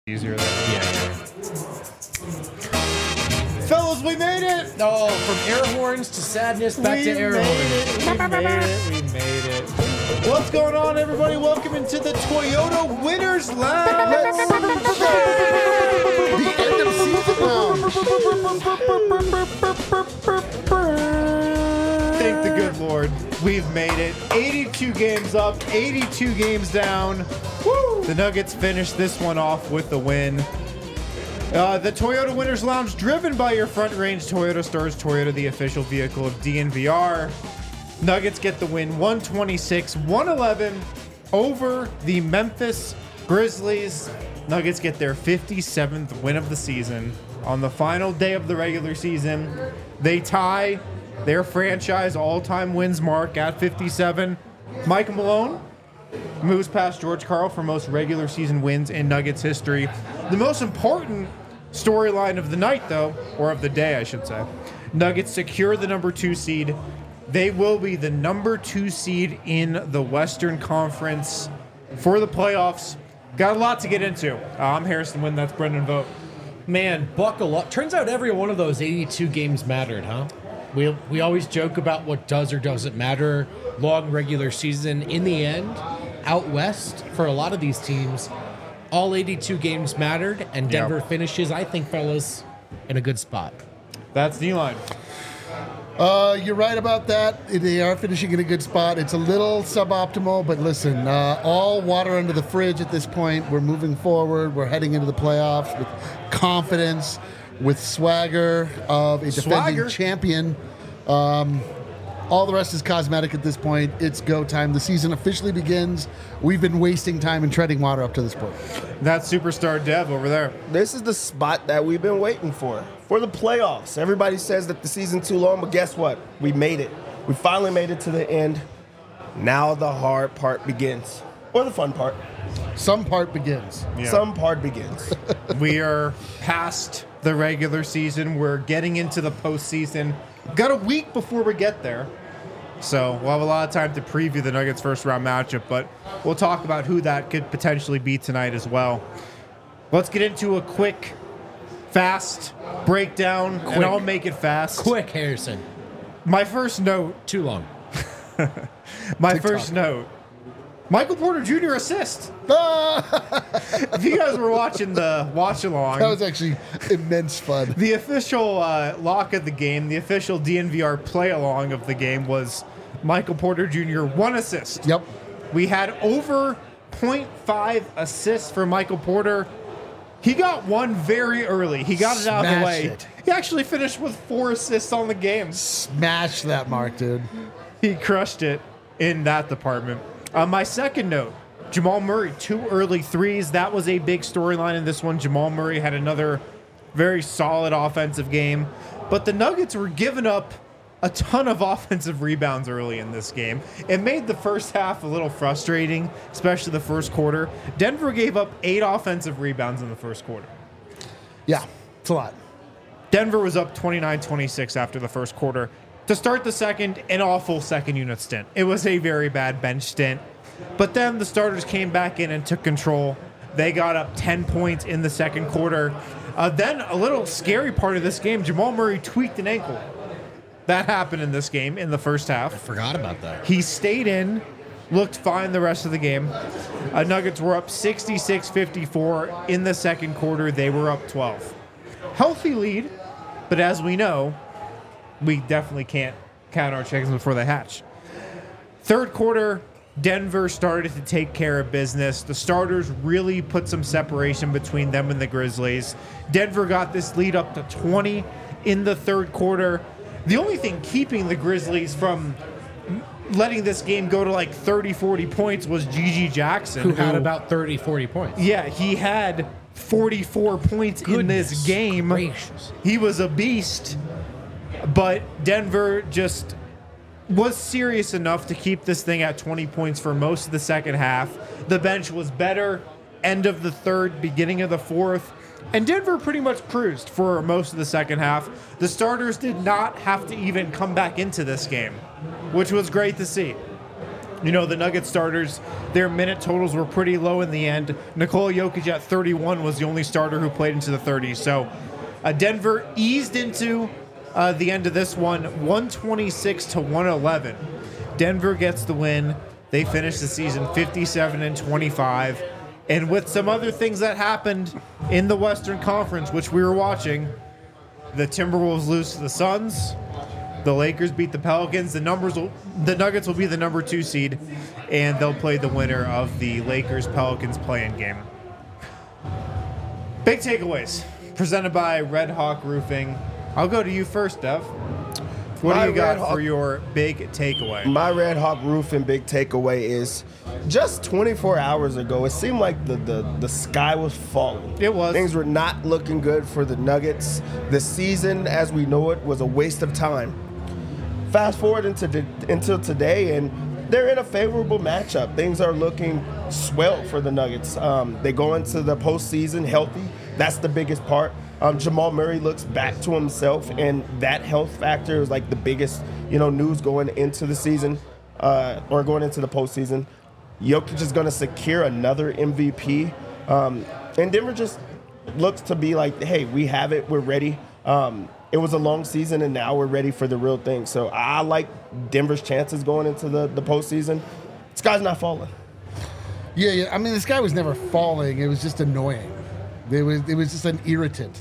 easier than Yeah. Fellas, we made it! Oh, from air horns to sadness, back to air horns. We made it. What's going on, everybody? Welcome into the Toyota Winners Lounge. The end of season lounge. Thank the good Lord. We've made it. 82 games up, 82 games down. Woo! The Nuggets finished this one off with the win. The Toyota Winners Lounge, driven by your Front Range Toyota stores. Toyota, the official vehicle of DNVR. Nuggets get the win 126-111 over the Memphis Grizzlies. Nuggets get their 57th win of the season. On the final day of the regular season, they tie their franchise all-time wins mark at 57. Michael Malone moves past George Karl for most regular season wins in Nuggets history. The most important storyline of the night, though, or of the day, I should say, Nuggets secure the number 2 seed. They will be the number 2 seed in the Western Conference for the playoffs. Got a lot to get into. I'm Harrison Wynn. That's Brendan Vogt. Man, buckle up. Turns out every one of those 82 games mattered, huh? We always joke about what does or doesn't matter. Long regular season. In the end, out west, for a lot of these teams, all 82 games mattered, and Denver finishes, I think, fellas, in a good spot. That's D-line. You're right about that. They are finishing in a good spot. It's a little suboptimal, but listen, all water under the fridge at this point. We're moving forward. We're heading into the playoffs with confidence, with swagger of a defending champion. All the rest is cosmetic at this point. It's go time. The season officially begins. We've been wasting time and treading water up to this point. That's superstar Dev over there. This is the spot that we've been waiting for the playoffs. Everybody says that the season's too long, but guess what? We made it. We finally made it to the end. Now the hard part begins. Or the fun part. Some part begins. Yeah. Some part begins. We are past the regular season. We're getting into the postseason. Got a week before we get there. So we'll have a lot of time to preview the Nuggets' first round matchup, but we'll talk about who that could potentially be tonight as well. Let's get into a quick, fast breakdown, and I'll make it fast. Quick, Harrison. My first note. Too long. First note. Michael Porter Jr. assist. If you guys were watching the watch-along. That was actually immense fun. The official lock of the game, the official DNVR play-along of the game was Michael Porter Jr. 1 assist. Yep. We had over 0.5 assists for Michael Porter. He got one very early. He got it out of the way. It. He actually finished with 4 assists on the game. Smash that mark, dude. He crushed it in that department. My second note, Jamal Murray, 2 early threes. That was a big storyline in this one. Jamal Murray had another very solid offensive game. But the Nuggets were giving up a ton of offensive rebounds early in this game. It made the first half a little frustrating, especially the first quarter. Denver gave up 8 offensive rebounds in the first quarter. Yeah, it's a lot. Denver was up 29-26 after the first quarter. To start the second, an awful second unit stint. It was a very bad bench stint. But then the starters came back in and took control. They got up 10 points in the second quarter. Then a little scary part of this game, Jamal Murray tweaked an ankle. That happened in this game in the first half. I forgot about that. He stayed in, looked fine the rest of the game. Nuggets were up 66-54 in the second quarter. They were up 12. Healthy lead, but as we know, we definitely can't count our chickens before they hatch. Third quarter, Denver started to take care of business. The starters really put some separation between them and the Grizzlies. Denver got this lead up to 20 in the third quarter. The only thing keeping the Grizzlies from letting this game go to like 30, 40 points was Gigi Jackson. Who had about 30, 40 points. Yeah, he had 44 points in this game. Gracious. He was a beast. But Denver just was serious enough to keep this thing at 20 points for most of the second half. The bench was better. End of the third, beginning of the fourth. And Denver pretty much cruised for most of the second half. The starters did not have to even come back into this game, which was great to see. The Nuggets starters, their minute totals were pretty low in the end. Nikola Jokic at 31 was the only starter who played into the 30s. So Denver eased into the end of this one, 126 to 111. Denver gets the win. They finish the season 57-25. And with some other things that happened in the Western Conference, which we were watching, the Timberwolves lose to the Suns. The Lakers beat the Pelicans. The Nuggets will be the number 2 seed, and they'll play the winner of the Lakers-Pelicans play-in game. Big takeaways presented by Red Hawk Roofing. I'll go to you first, Dev. What do you got for your big takeaway? My Red Hawk Roofing big takeaway is just 24 hours ago, it seemed like the sky was falling. It was. Things were not looking good for the Nuggets. The season, as we know it, was a waste of time. Fast forward until today, and they're in a favorable matchup. Things are looking swell for the Nuggets. They go into the postseason healthy. That's the biggest part. Jamal Murray looks back to himself, and that health factor is like the biggest, news going into the season or going into the postseason. Jokic is going to secure another MVP, and Denver just looks to be like, hey, we have it, we're ready. It was a long season, and now we're ready for the real thing. So I like Denver's chances going into the postseason. This guy's not falling. Yeah. I mean, this guy was never falling. It was just annoying. It was just an irritant.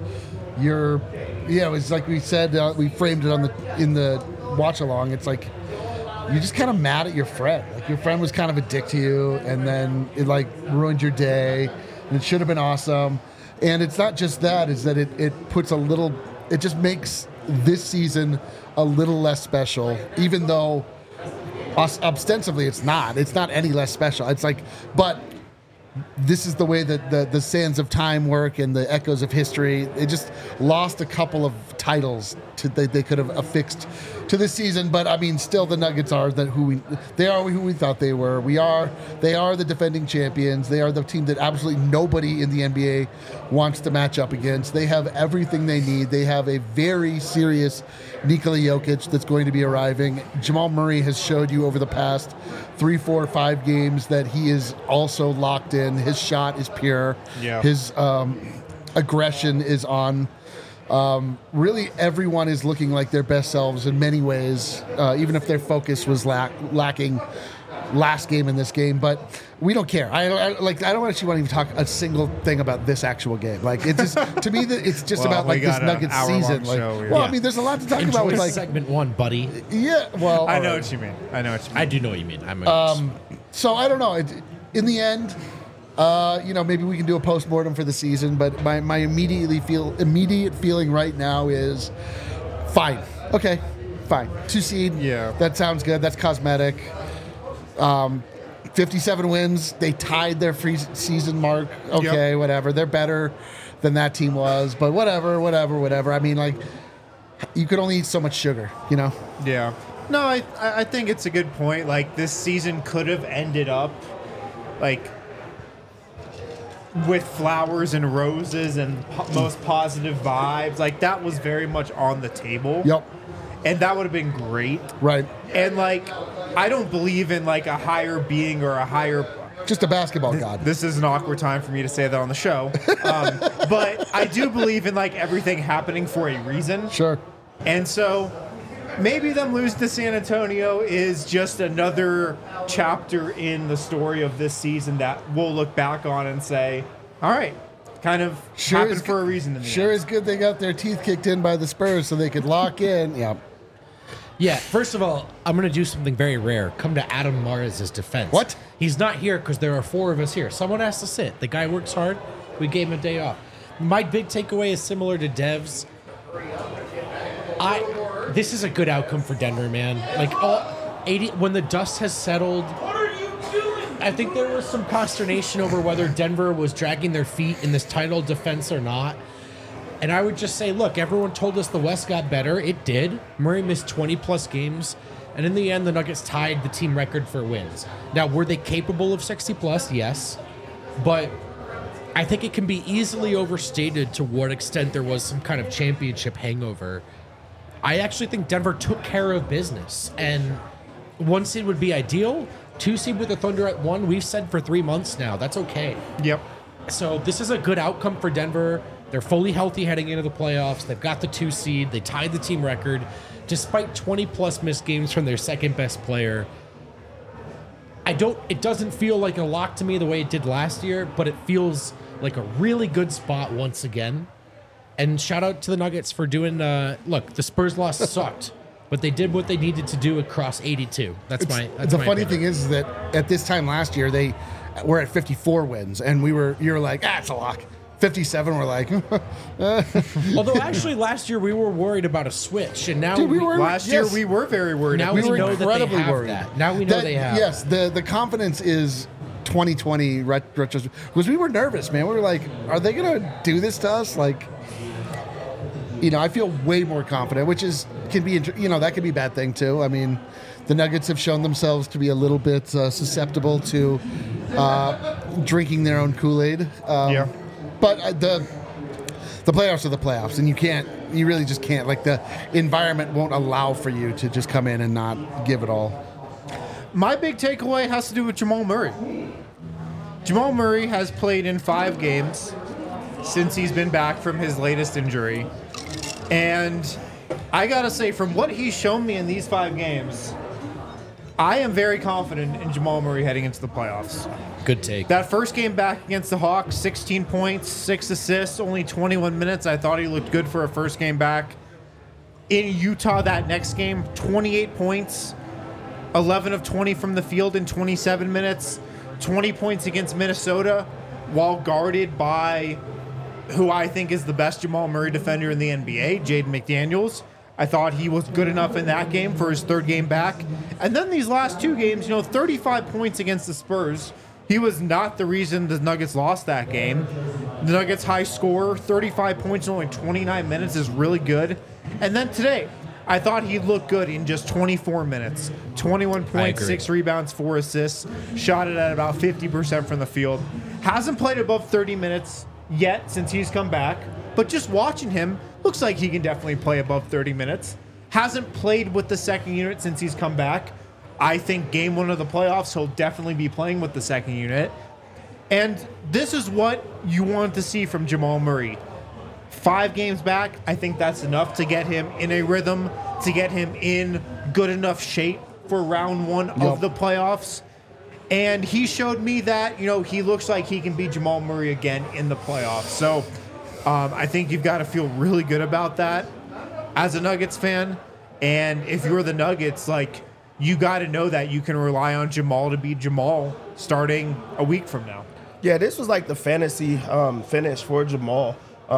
It was like we said. We framed it in the watch along. It's like you're just kind of mad at your friend. Like your friend was kind of a dick to you, and then it ruined your day. And it should have been awesome. And it's not just that. It's that it puts a little. It just makes this season a little less special, even though ostensibly it's not. It's not any less special. It's like, but this is the way that the sands of time work and the echoes of history. They just lost a couple of titles they could have affixed to this season. But I mean, still the Nuggets are who we thought they were. They are the defending champions. They are the team that absolutely nobody in the NBA wants to match up against. They have everything they need. They have a very serious Nikola Jokic that's going to be arriving. Jamal Murray has showed you over the past 3, 4, 5 games that he is also locked in. His shot is pure. Yeah. His aggression is on. Really, everyone is looking like their best selves in many ways, even if their focus was lacking last game in this game. But we don't care. I don't actually want to even talk a single thing about this actual game. Like, it's just to me that it's just about this Nuggets season. I mean, there's a lot to talk about with segment 1, buddy. Yeah, well, I know what you mean. I do know what you mean. So I don't know. In the end, maybe we can do a post-mortem for the season, but my immediate feeling right now is fine. Okay, fine. 2 seed. Yeah. That sounds good. That's cosmetic. 57 wins. They tied their season mark. Okay, whatever. They're better than that team was, but whatever. I mean, you could only eat so much sugar, Yeah. No, I think it's a good point. This season could have ended up with flowers and roses and most positive vibes. That was very much on the table. Yep. And that would have been great. Right. And I don't believe in a higher being or a higher. Just a basketball god. This is an awkward time for me to say that on the show. But I do believe in everything happening for a reason. Sure. And so maybe them lose to San Antonio is just another chapter in the story of this season that we'll look back on and say, all right, kind of happened for a reason. In the end. Is good they got their teeth kicked in by the Spurs so they could lock in. Yeah. Yeah, first of all, I'm going to do something very rare. Come to Adam Mares' defense. What? He's not here because there are 4 of us here. Someone has to sit. The guy works hard. We gave him a day off. My big takeaway is similar to Dev's. This is a good outcome for Denver, man. When the dust has settled, I think there was some consternation over whether Denver was dragging their feet in this title defense or not. And I would just say, look, everyone told us the West got better. It did. Murray missed 20-plus games. And in the end, the Nuggets tied the team record for wins. Now, were they capable of 60-plus? Yes. But I think it can be easily overstated to what extent there was some kind of championship hangover. I actually think Denver took care of business. And 1 seed would be ideal. 2 seed with the Thunder at 1. We've said for 3 months now. That's okay. Yep. So this is a good outcome for Denver. They're fully healthy heading into the playoffs. They've got the 2 seed. They tied the team record despite 20-plus missed games from their second-best player. It doesn't feel like a lock to me the way it did last year, but it feels like a really good spot once again. And shout out to the Nuggets for doing, look, the Spurs loss sucked, but they did what they needed to do across 82. That's my funny opinion. thing is that at this time last year, they were at 54 wins, and you were like, it's a lock. 57, we're like, Although actually last year we were worried about a switch, and now Dude, we were- Last Yes. year we were very worried. now we we were know that they incredibly have worried. that. Now we know they have. Yes, the confidence is 2020 retrospect. Because we were nervous, man. We were like, are they going to do this to us? Like, I feel way more confident, which can be that could be a bad thing too. I mean, the Nuggets have shown themselves to be a little bit susceptible to drinking their own Kool-Aid. Yeah. But the playoffs are the playoffs, and you really just can't. Like, the environment won't allow for you to just come in and not give it all. My big takeaway has to do with Jamal Murray. Jamal Murray has played in 5 games since he's been back from his latest injury. And I got to say, from what he's shown me in these 5 games, I am very confident in Jamal Murray heading into the playoffs. Good take. That first game back against the Hawks, 16 points, 6 assists, only 21 minutes. I thought he looked good for a first game back. In Utah, that next game, 28 points, 11 of 20 from the field in 27 minutes, 20 points against Minnesota while guarded by who I think is the best Jamal Murray defender in the NBA, Jaden McDaniels. I thought he was good enough in that game for his 3rd game back. And then these last 2 games, 35 points against the Spurs. He was not the reason the Nuggets lost that game. The Nuggets high scorer, 35 points in only 29 minutes is really good. And then today, I thought he looked good in just 24 minutes. 21 points, 6 rebounds, 4 assists. Shot it at about 50% from the field. Hasn't played above 30 minutes yet since he's come back. But just watching him, looks like he can definitely play above 30 minutes. Hasn't played with the second unit since he's come back. I think game 1 of the playoffs, he'll definitely be playing with the second unit. And this is what you want to see from Jamal Murray. 5 games back, I think that's enough to get him in a rhythm, to get him in good enough shape for round 1 of the playoffs. And he showed me that, he looks like he can be Jamal Murray again in the playoffs. So I think you've got to feel really good about that as a Nuggets fan. And if you're the Nuggets, you got to know that you can rely on Jamal to be Jamal starting a week from now. Yeah, this was like the fantasy finish for Jamal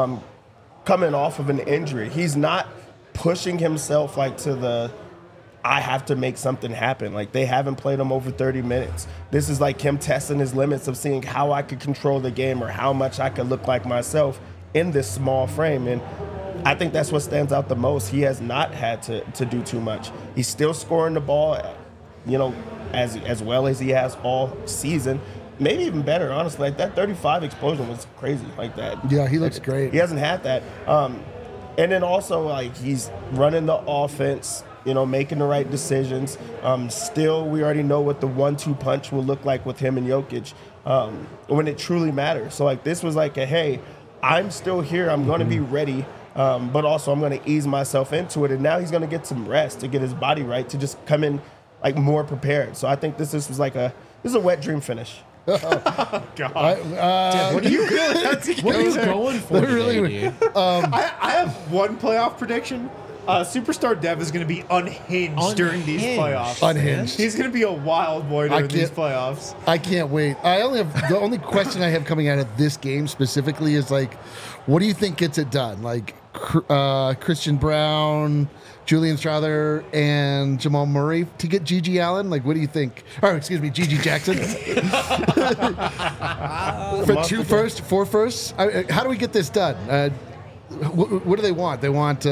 coming off of an injury. He's not pushing himself to the I have to make something happen. They haven't played him over 30 minutes. This is like him testing his limits of seeing how I could control the game or how much I could look like myself in this small frame. And I think that's what stands out the most. He has not had to do too much. He's still scoring the ball, as well as he has all season. Maybe even better, honestly. That 35 explosion was crazy like that. Yeah, he looks great. He hasn't had that. And then also, he's running the offense, making the right decisions. Still, we already know what the 1-2 punch will look like with him and Jokic when it truly matters. So, this was hey, I'm still here. I'm going to be ready. But also I'm going to ease myself into it. And now he's going to get some rest to get his body right, to just come in more prepared. So I think this is a wet dream finish. God. What are you going for today, dude? I have one playoff prediction. Superstar Dev is going to be unhinged during these playoffs. Unhinged. He's going to be a wild boy during these playoffs. I can't wait. The only question I have coming out of this game specifically is what do you think gets it done? Christian Brown, Julian Strawther, and Jamal Murray to get Gigi Allen? What do you think? Or excuse me, Gigi Jackson. For 4 firsts? How do we get this done? What do they want? They want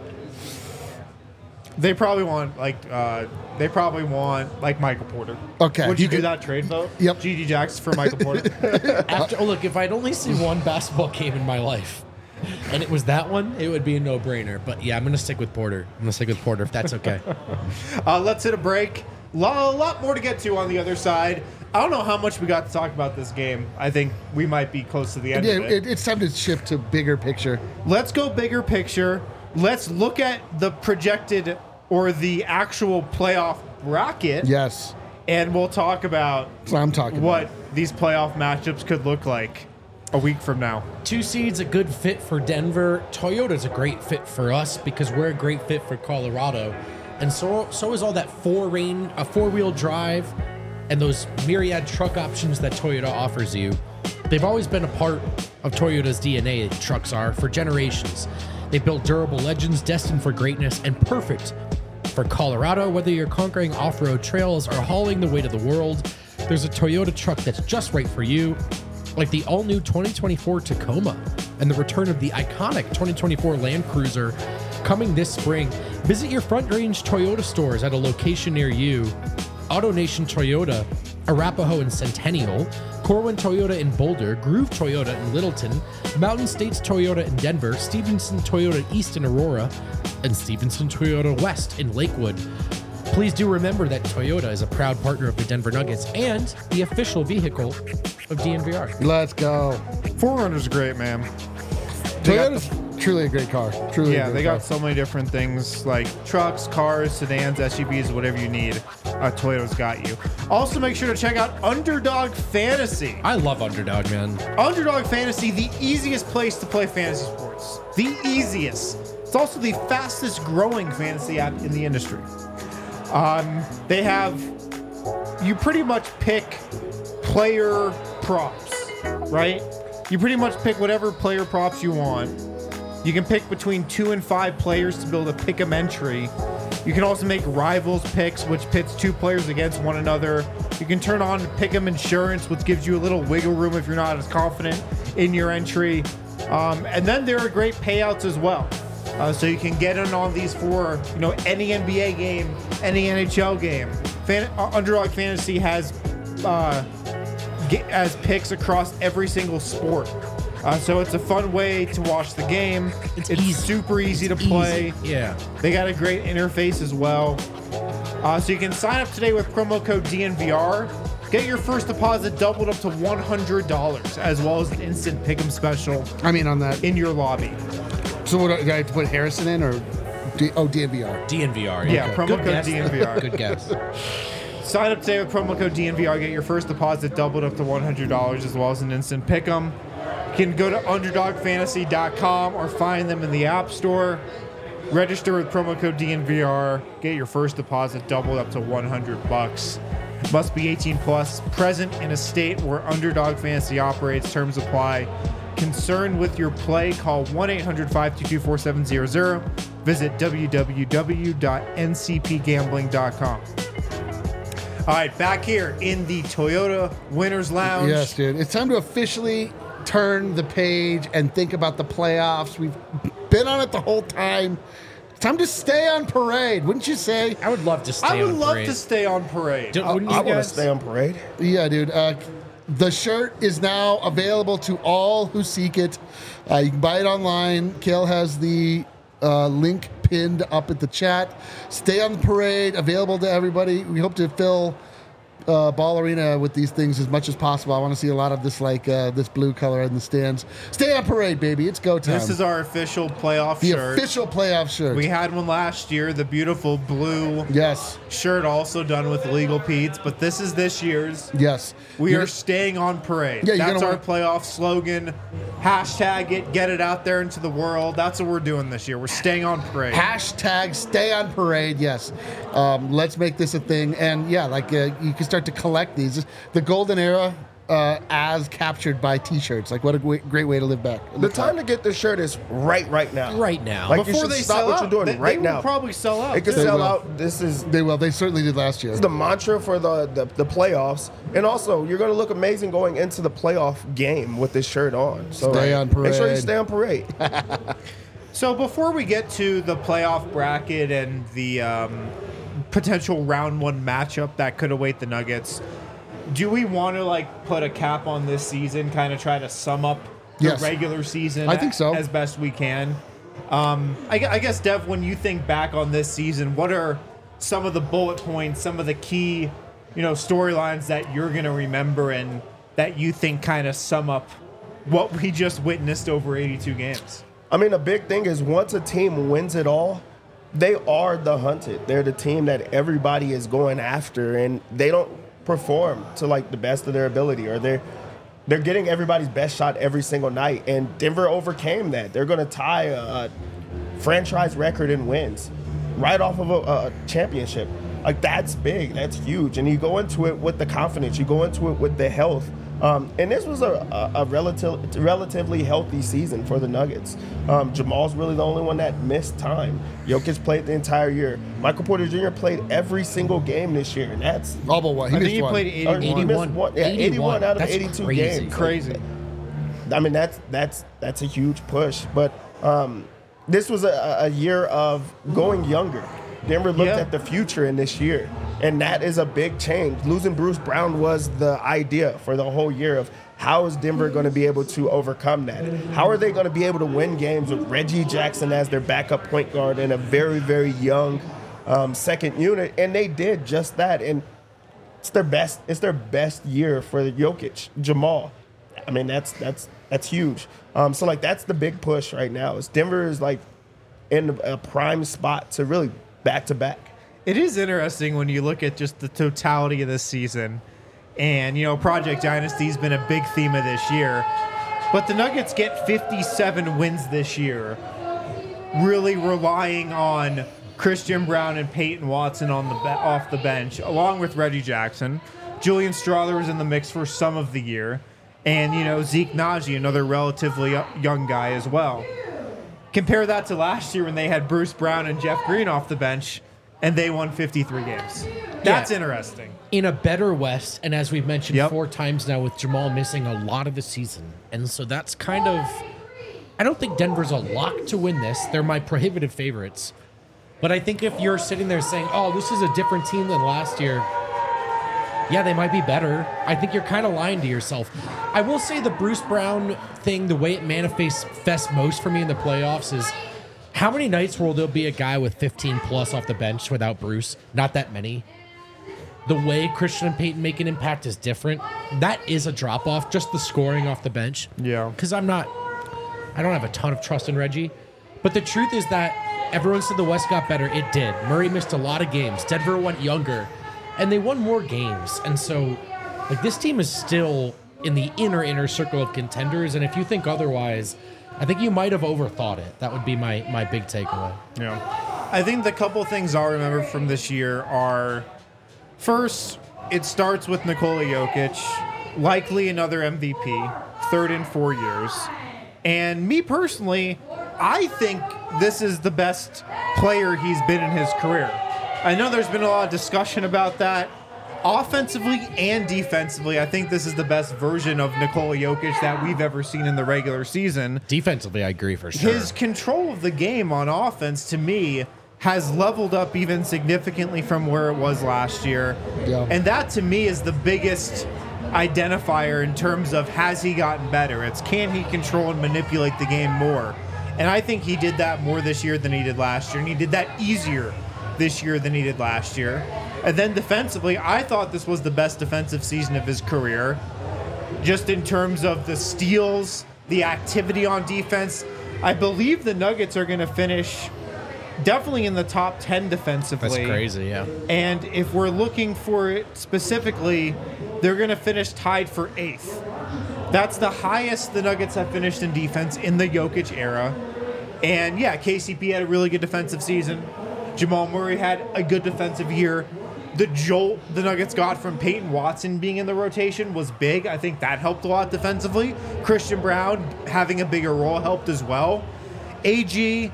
They probably want Michael Porter. Okay. Would you do that trade vote? Yep. Gigi Jackson for Michael Porter. Look, if I'd only seen one basketball game in my life, and it was that one, it would be a no-brainer. But yeah, I'm going to stick with Porter. I'm going to stick with Porter if that's okay. Let's hit a break. a lot more to get to on the other side. I don't know how much we got to talk about this game. I think we might be close to the end of it. It's time to shift to bigger picture. Let's go bigger picture. Let's look at the projected or the actual playoff bracket. Yes. And we'll talk about That's what I'm talking what these playoff matchups could look like a week from now. 2 seeds, a good fit for Denver. Toyota's a great fit for us because we're a great fit for Colorado. And so is all that four-wheel drive and those myriad truck options that Toyota offers you. They've always been a part of Toyota's DNA, trucks are, for generations. They built durable legends destined for greatness and perfect for Colorado. Whether you're conquering off-road trails or hauling the weight of the world, there's a Toyota truck that's just right for you, like the all-new 2024 Tacoma and the return of the iconic 2024 Land Cruiser coming this spring. Visit your Front Range Toyota stores at a location near you. AutoNation Toyota, Arapahoe and Centennial, Corwin Toyota in Boulder, Groove Toyota in Littleton, Mountain States Toyota in Denver, Stevenson Toyota East in Aurora, and Stevenson Toyota West in Lakewood. Please do remember that Toyota is a proud partner of the Denver Nuggets and the official vehicle of DNVR. Let's go. 4Runner's great, man. They got Toyota's truly a great car. Truly a Yeah, great they car. got so many different things like trucks, cars, sedans, SUVs, whatever you need. Toyota's got you. Also, make sure to check out Underdog Fantasy. I love Underdog, man. Underdog Fantasy, the easiest place to play fantasy sports. The easiest. It's also the fastest growing fantasy app in the industry. They have, you pretty much pick player props, right? You pretty much pick whatever player props you want. You can pick between 2 and 5 players to build a pick'em entry. You can also make rivals picks, which pits 2 players against one another. You can turn on pick'em insurance, which gives you a little wiggle room if you're not as confident in your entry. And then there are great payouts as well. So you can get in on these for any NBA game, any NHL game. Underdog Fantasy has picks across every single sport. So it's a fun way to watch the game. It's easy. super easy to play. Easy. Yeah. They got a great interface as well. So you can sign up today with promo code DNVR. Get your first deposit doubled up to $100, as well as an instant pick'em special I mean, on that. in your lobby. So what, do I have to put Harrison in or DNVR? DNVR. Yeah, promo Good code guess. DNVR. Good guess. Sign up today with promo code DNVR. Get your first deposit doubled up to $100, as well as an instant pick'em. You can go to underdogfantasy.com or find them in the App Store. Register with promo code DNVR. Get your first deposit doubled up to $100. Must be 18 plus. Present in a state where Underdog Fantasy operates. Terms apply. Concerned with your play? Call 1-800-522-4700. Visit www.ncpgambling.com. All right, back here in the Toyota Winners Lounge. Yes, dude. It's time to officially turn the page and think about the playoffs. We've been on it the whole time. It's time to stay on parade, wouldn't you say? I would love to stay I would on love parade. to stay on parade. Wouldn't I you want to guys? stay on parade. Yeah, dude. The shirt is now available to all who seek it. You can buy it online. Kale has the link pinned up at the chat. Stay on the parade, available to everybody. We hope to fill Ball Arena with these things as much as possible. I want to see a lot of this, this blue color in the stands. Stay on parade, baby. It's go time. This is our official playoff the shirt. official playoff shirt. We had one last year, the beautiful blue Yes. shirt, also done with Legal Pete's, but this is this year's. Yes. We You're- are staying on parade. Yeah, you're That's gonna our playoff slogan. Hashtag it, get it out there into the world. That's what we're doing this year. We're staying on parade. Hashtag stay on parade. Yes. Let's make this a thing. And yeah, you can start to collect these. The golden era as captured by t-shirts. Like, what a great way to live back. The time to get this shirt is right now. Right now. Like, Before you should they stop sell what out. you're doing They right will now. probably sell out. It could too. sell will. out. This is They will. They certainly did last year. the mantra for the playoffs, and also you're going to look amazing going into the playoff game with this shirt on. So Stay on Make sure you parade. stay on parade. So before we get to the playoff bracket and the potential round one matchup that could await the Nuggets, do we want to put a cap on this season, kind of try to sum up the Yes. regular season I think so. as best we can? I guess, Dev, when you think back on this season, what are some of the bullet points, some of the key, storylines that you're going to remember and that you think kind of sum up what we just witnessed over 82 games? I mean, a big thing is once a team wins it all, they are the hunted. They're the team that everybody is going after, and they don't perform to like the best of their ability, or they're getting everybody's best shot every single night. And Denver overcame that. They're going to tie a franchise record in wins right off of a championship. Like, that's big. That's huge. And you go into it with the confidence. You go into it with the health. And this was a relatively healthy season for the Nuggets. Jamal's really the only one that missed time. Jokic played the entire year. Michael Porter Jr. played every single game this year, and that's All but one. He I think missed he one. played 81. he missed one. Yeah, 81 out of That's 82 crazy. games. Crazy. I mean, that's a huge push. But this was a year of going younger. Denver looked at the future in this year, and that is a big change. Losing Bruce Brown was the idea for the whole year of how is Denver going to be able to overcome that? How are they going to be able to win games with Reggie Jackson as their backup point guard and a very, very young second unit? And they did just that, and it's their best year for Jokic, Jamal. I mean, that's huge. So like that's the big push right now. Is Denver is like in a prime spot to really back-to-back. It is interesting when you look at just the totality of this season. And, Project Dynasty's been a big theme of this year. But the Nuggets get 57 wins this year, really relying on Christian Brown and Peyton Watson off the bench, along with Reggie Jackson. Julian Strawther was in the mix for some of the year. And, Zeke Naji, another relatively young guy as well. Compare that to last year when they had Bruce Brown and Jeff Green off the bench, and they won 53 games. That's interesting. In a better West, and as we've mentioned Yep. 4 times now, with Jamal missing a lot of the season. And so that's kind of... I don't think Denver's a lock to win this. They're my prohibitive favorites. But I think if you're sitting there saying, oh, this is a different team than last year, yeah, they might be better. I think you're kind of lying to yourself. I will say the Bruce Brown thing, the way it manifests most for me in the playoffs is how many nights will there be a guy with 15 plus off the bench without Bruce? Not that many. The way Christian and Peyton make an impact is different. That is a drop off, just the scoring off the bench. Yeah. Because I don't have a ton of trust in Reggie. But the truth is that everyone said the West got better. It did. Murray missed a lot of games. Denver went younger. And they won more games. And so, like, this team is still in the inner circle of contenders. And if you think otherwise, I think you might have overthought it. That would be my big takeaway. Yeah. I think the couple things I'll remember from this year are, first, it starts with Nikola Jokic, likely another MVP, third in 4 years. And me personally, I think this is the best player he's been in his career. I know there's been a lot of discussion about that. Offensively and defensively, I think this is the best version of Nikola Jokic that we've ever seen in the regular season. Defensively, I agree for sure. His control of the game on offense, to me, has leveled up even significantly from where it was last year. Yeah. And that, to me, is the biggest identifier in terms of has he gotten better. It's can he control and manipulate the game more. And I think he did that more this year than he did last year. And he did that easier this year than he did last year. And then defensively, I thought this was the best defensive season of his career. Just in terms of the steals, the activity on defense. I believe the Nuggets are going to finish definitely in the top 10 defensively. That's crazy, yeah. And if we're looking for it specifically, they're going to finish tied for 8th. That's the highest the Nuggets have finished in defense in the Jokic era. And yeah, KCP had a really good defensive season. Jamal Murray had a good defensive year. The jolt the Nuggets got from Peyton Watson being in the rotation was big. I think that helped a lot defensively. Christian Brown having a bigger role helped as well. AG,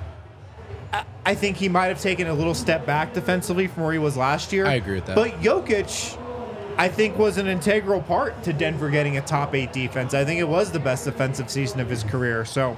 I think he might have taken a little step back defensively from where he was last year. I agree with that. But Jokic, I think, was an integral part to Denver getting a top 8 defense. I think it was the best defensive season of his career. So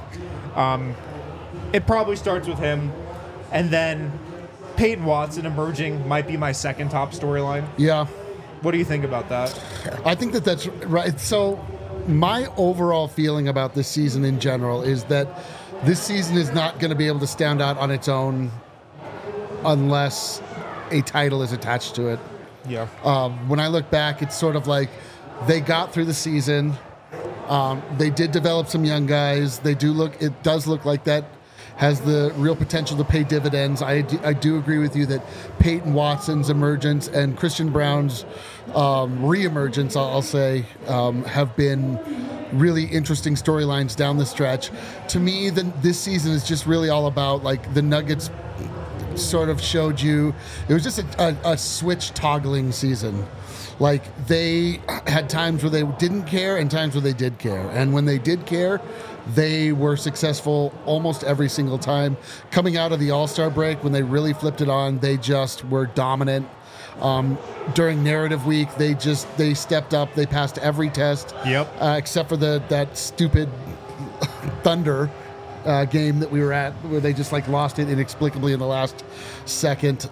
it probably starts with him. And then Peyton Watson emerging might be my second top storyline. Yeah. What do you think about that? I think that's right. So my overall feeling about this season in general is that this season is not going to be able to stand out on its own unless a title is attached to it. Yeah. When I look back, it's sort of like they got through the season. They did develop some young guys. It does look like that has the real potential to pay dividends. I do agree with you that Peyton Watson's emergence and Christian Brown's reemergence, I'll say, have been really interesting storylines down the stretch. To me, this season is just really all about, like, the Nuggets sort of showed you. It was just a switch toggling season. Like, they had times where they didn't care and times where they did care. And when they did care, they were successful almost every single time. Coming out of the All-Star break, when they really flipped it on, they just were dominant. During narrative week, they stepped up. They passed every test. Yep. Except for that stupid Thunder game that we were at, where they just like lost it inexplicably in the last second.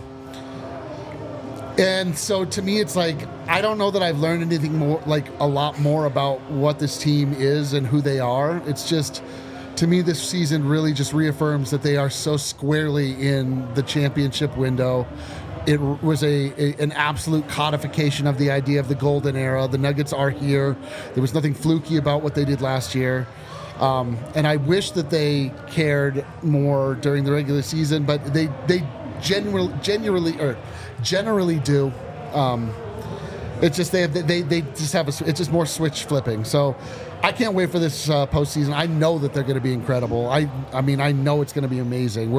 And so to me, it's like, I don't know that I've learned anything more, like a lot more about what this team is and who they are. It's just, to me, this season really just reaffirms that they are so squarely in the championship window. It was an absolute codification of the idea of the golden era. The Nuggets are here. There was nothing fluky about what they did last year. And I wish that they cared more during the regular season, but they generally do. It's just they just have it's just more switch flipping. So I can't wait for this postseason. I know that they're going to be incredible. I mean, I know it's going to be amazing.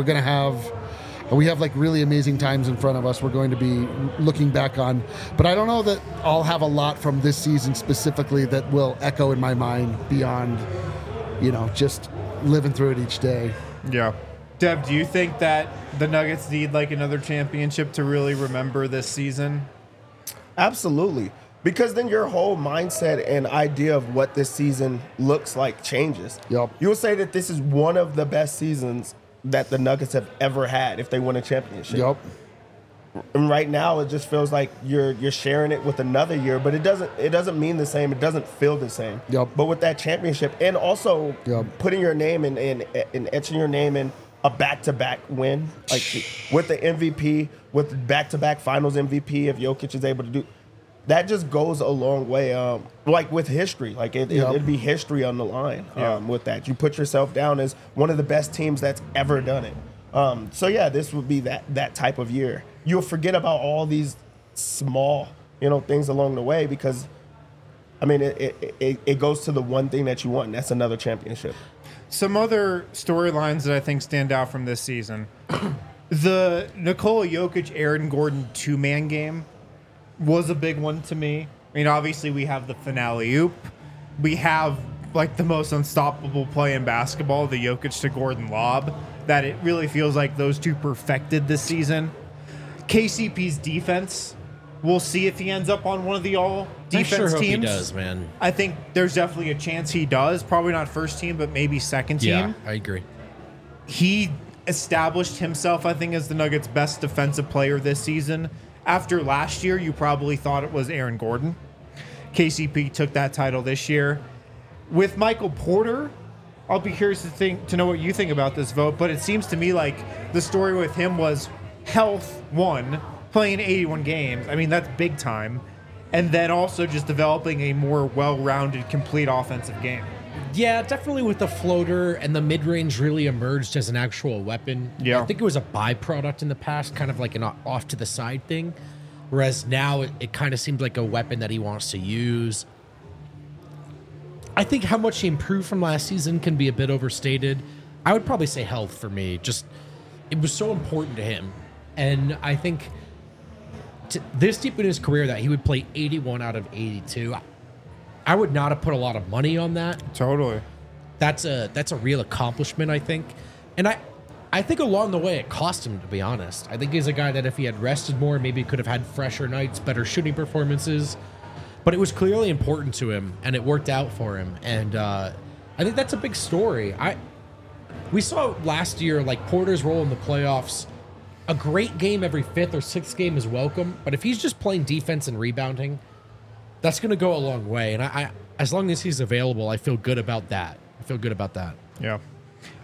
We have like really amazing times in front of us. We're going to be looking back on, but I don't know that I'll have a lot from this season specifically that will echo in my mind beyond, just living through it each day. Yeah. Deb, do you think that the Nuggets need like another championship to really remember this season? Absolutely. Because then your whole mindset and idea of what this season looks like changes. Yep. You will say that this is one of the best seasons that the Nuggets have ever had if they win a championship. Yep. And right now, it just feels like you're sharing it with another year, but it doesn't mean the same. It doesn't feel the same. Yep. But with that championship, and also putting your name and etching your name in a back-to-back win, like with the MVP, with back-to-back Finals MVP, if Jokic is able to do that, just goes a long way. Like with history, like it'd be history on the line. With that, you put yourself down as one of the best teams that's ever done it. So yeah, this would be that type of year. You'll forget about all these small, things along the way because, I mean, it goes to the one thing that you want, and that's another championship. Some other storylines that I think stand out from this season. The Nikola Jokic, Aaron Gordon two-man game was a big one to me. I mean, obviously we have the finale oop. We have like the most unstoppable play in basketball, the Jokic to Gordon lob, that it really feels like those two perfected this season. KCP's defense, we'll see if he ends up on one of the all-defense I sure hope teams. he does, man. I think there's definitely a chance he does. Probably not first team, but maybe second team. Yeah, I agree. He established himself, I think, as the Nuggets' best defensive player this season. After last year, you probably thought it was Aaron Gordon. KCP took that title this year. With Michael Porter, I'll be curious to know what you think about this vote, but it seems to me like the story with him was health, one, playing 81 games. I mean, that's big time. And then also just developing a more well-rounded, complete offensive game. Yeah, definitely with the floater and the mid-range really emerged as an actual weapon. Yeah. I think it was a byproduct in the past, kind of like an off-to-the-side thing. Whereas now it kind of seems like a weapon that he wants to use. I think how much he improved from last season can be a bit overstated. I would probably say health for me. Just, it was so important to him. And I think this deep in his career that he would play 81 out of 82, I would not have put a lot of money on that. Totally. That's a real accomplishment, I think. And I think along the way it cost him, to be honest. I think he's a guy that if he had rested more, maybe could have had fresher nights, better shooting performances. But it was clearly important to him, and it worked out for him. And I think that's a big story. We saw last year, like, Porter's role in the playoffs. A great game every fifth or sixth game is welcome, but if he's just playing defense and rebounding, that's going to go a long way. And I as long as he's available, I feel good about that. Yeah.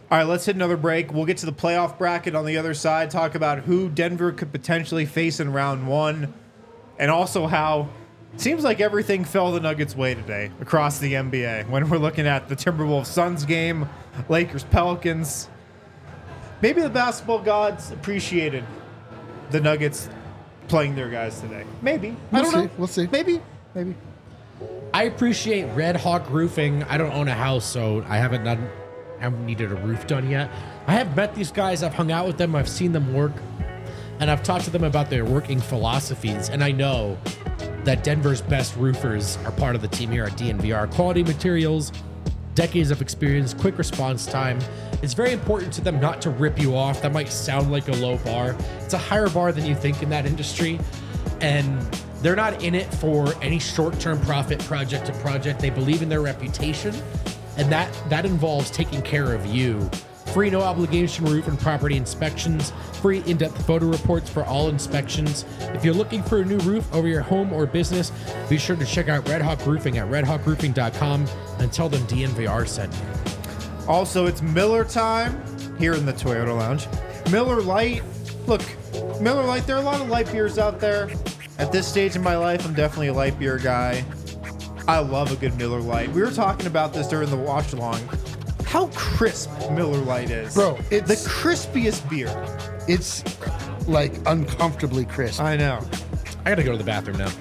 All right, let's hit another break. We'll get to the playoff bracket on the other side, talk about who Denver could potentially face in round one, and also how it seems like everything fell the Nuggets' way today across the NBA when we're looking at the Timberwolves Suns game, Lakers Pelicans. Maybe the basketball gods appreciated the Nuggets playing their guys today. Maybe. I don't know. We'll see. Maybe. I appreciate Red Hawk Roofing. I don't own a house, so I haven't needed a roof done yet. I have met these guys. I've hung out with them. I've seen them work. And I've talked to them about their working philosophies. And I know that Denver's best roofers are part of the team here at DNVR. Quality materials, decades of experience, quick response time. It's very important to them not to rip you off. That might sound like a low bar. It's a higher bar than you think in that industry. And they're not in it for any short-term profit project to project. They believe in their reputation. And that involves taking care of you. Free no obligation roof and property inspections, free in-depth photo reports for all inspections. If you're looking for a new roof over your home or business, be sure to check out Red Hawk Roofing at redhawkroofing.com and tell them DNVR sent you. Also, it's Miller time here in the Toyota Lounge. Miller Lite. Look, Miller Lite, there are a lot of light beers out there. At this stage in my life, I'm definitely a light beer guy. I love a good Miller Lite. We were talking about this during the watch along. How crisp Miller Lite is. Bro, it's the crispiest beer. It's like uncomfortably crisp. I know. I gotta go to the bathroom now.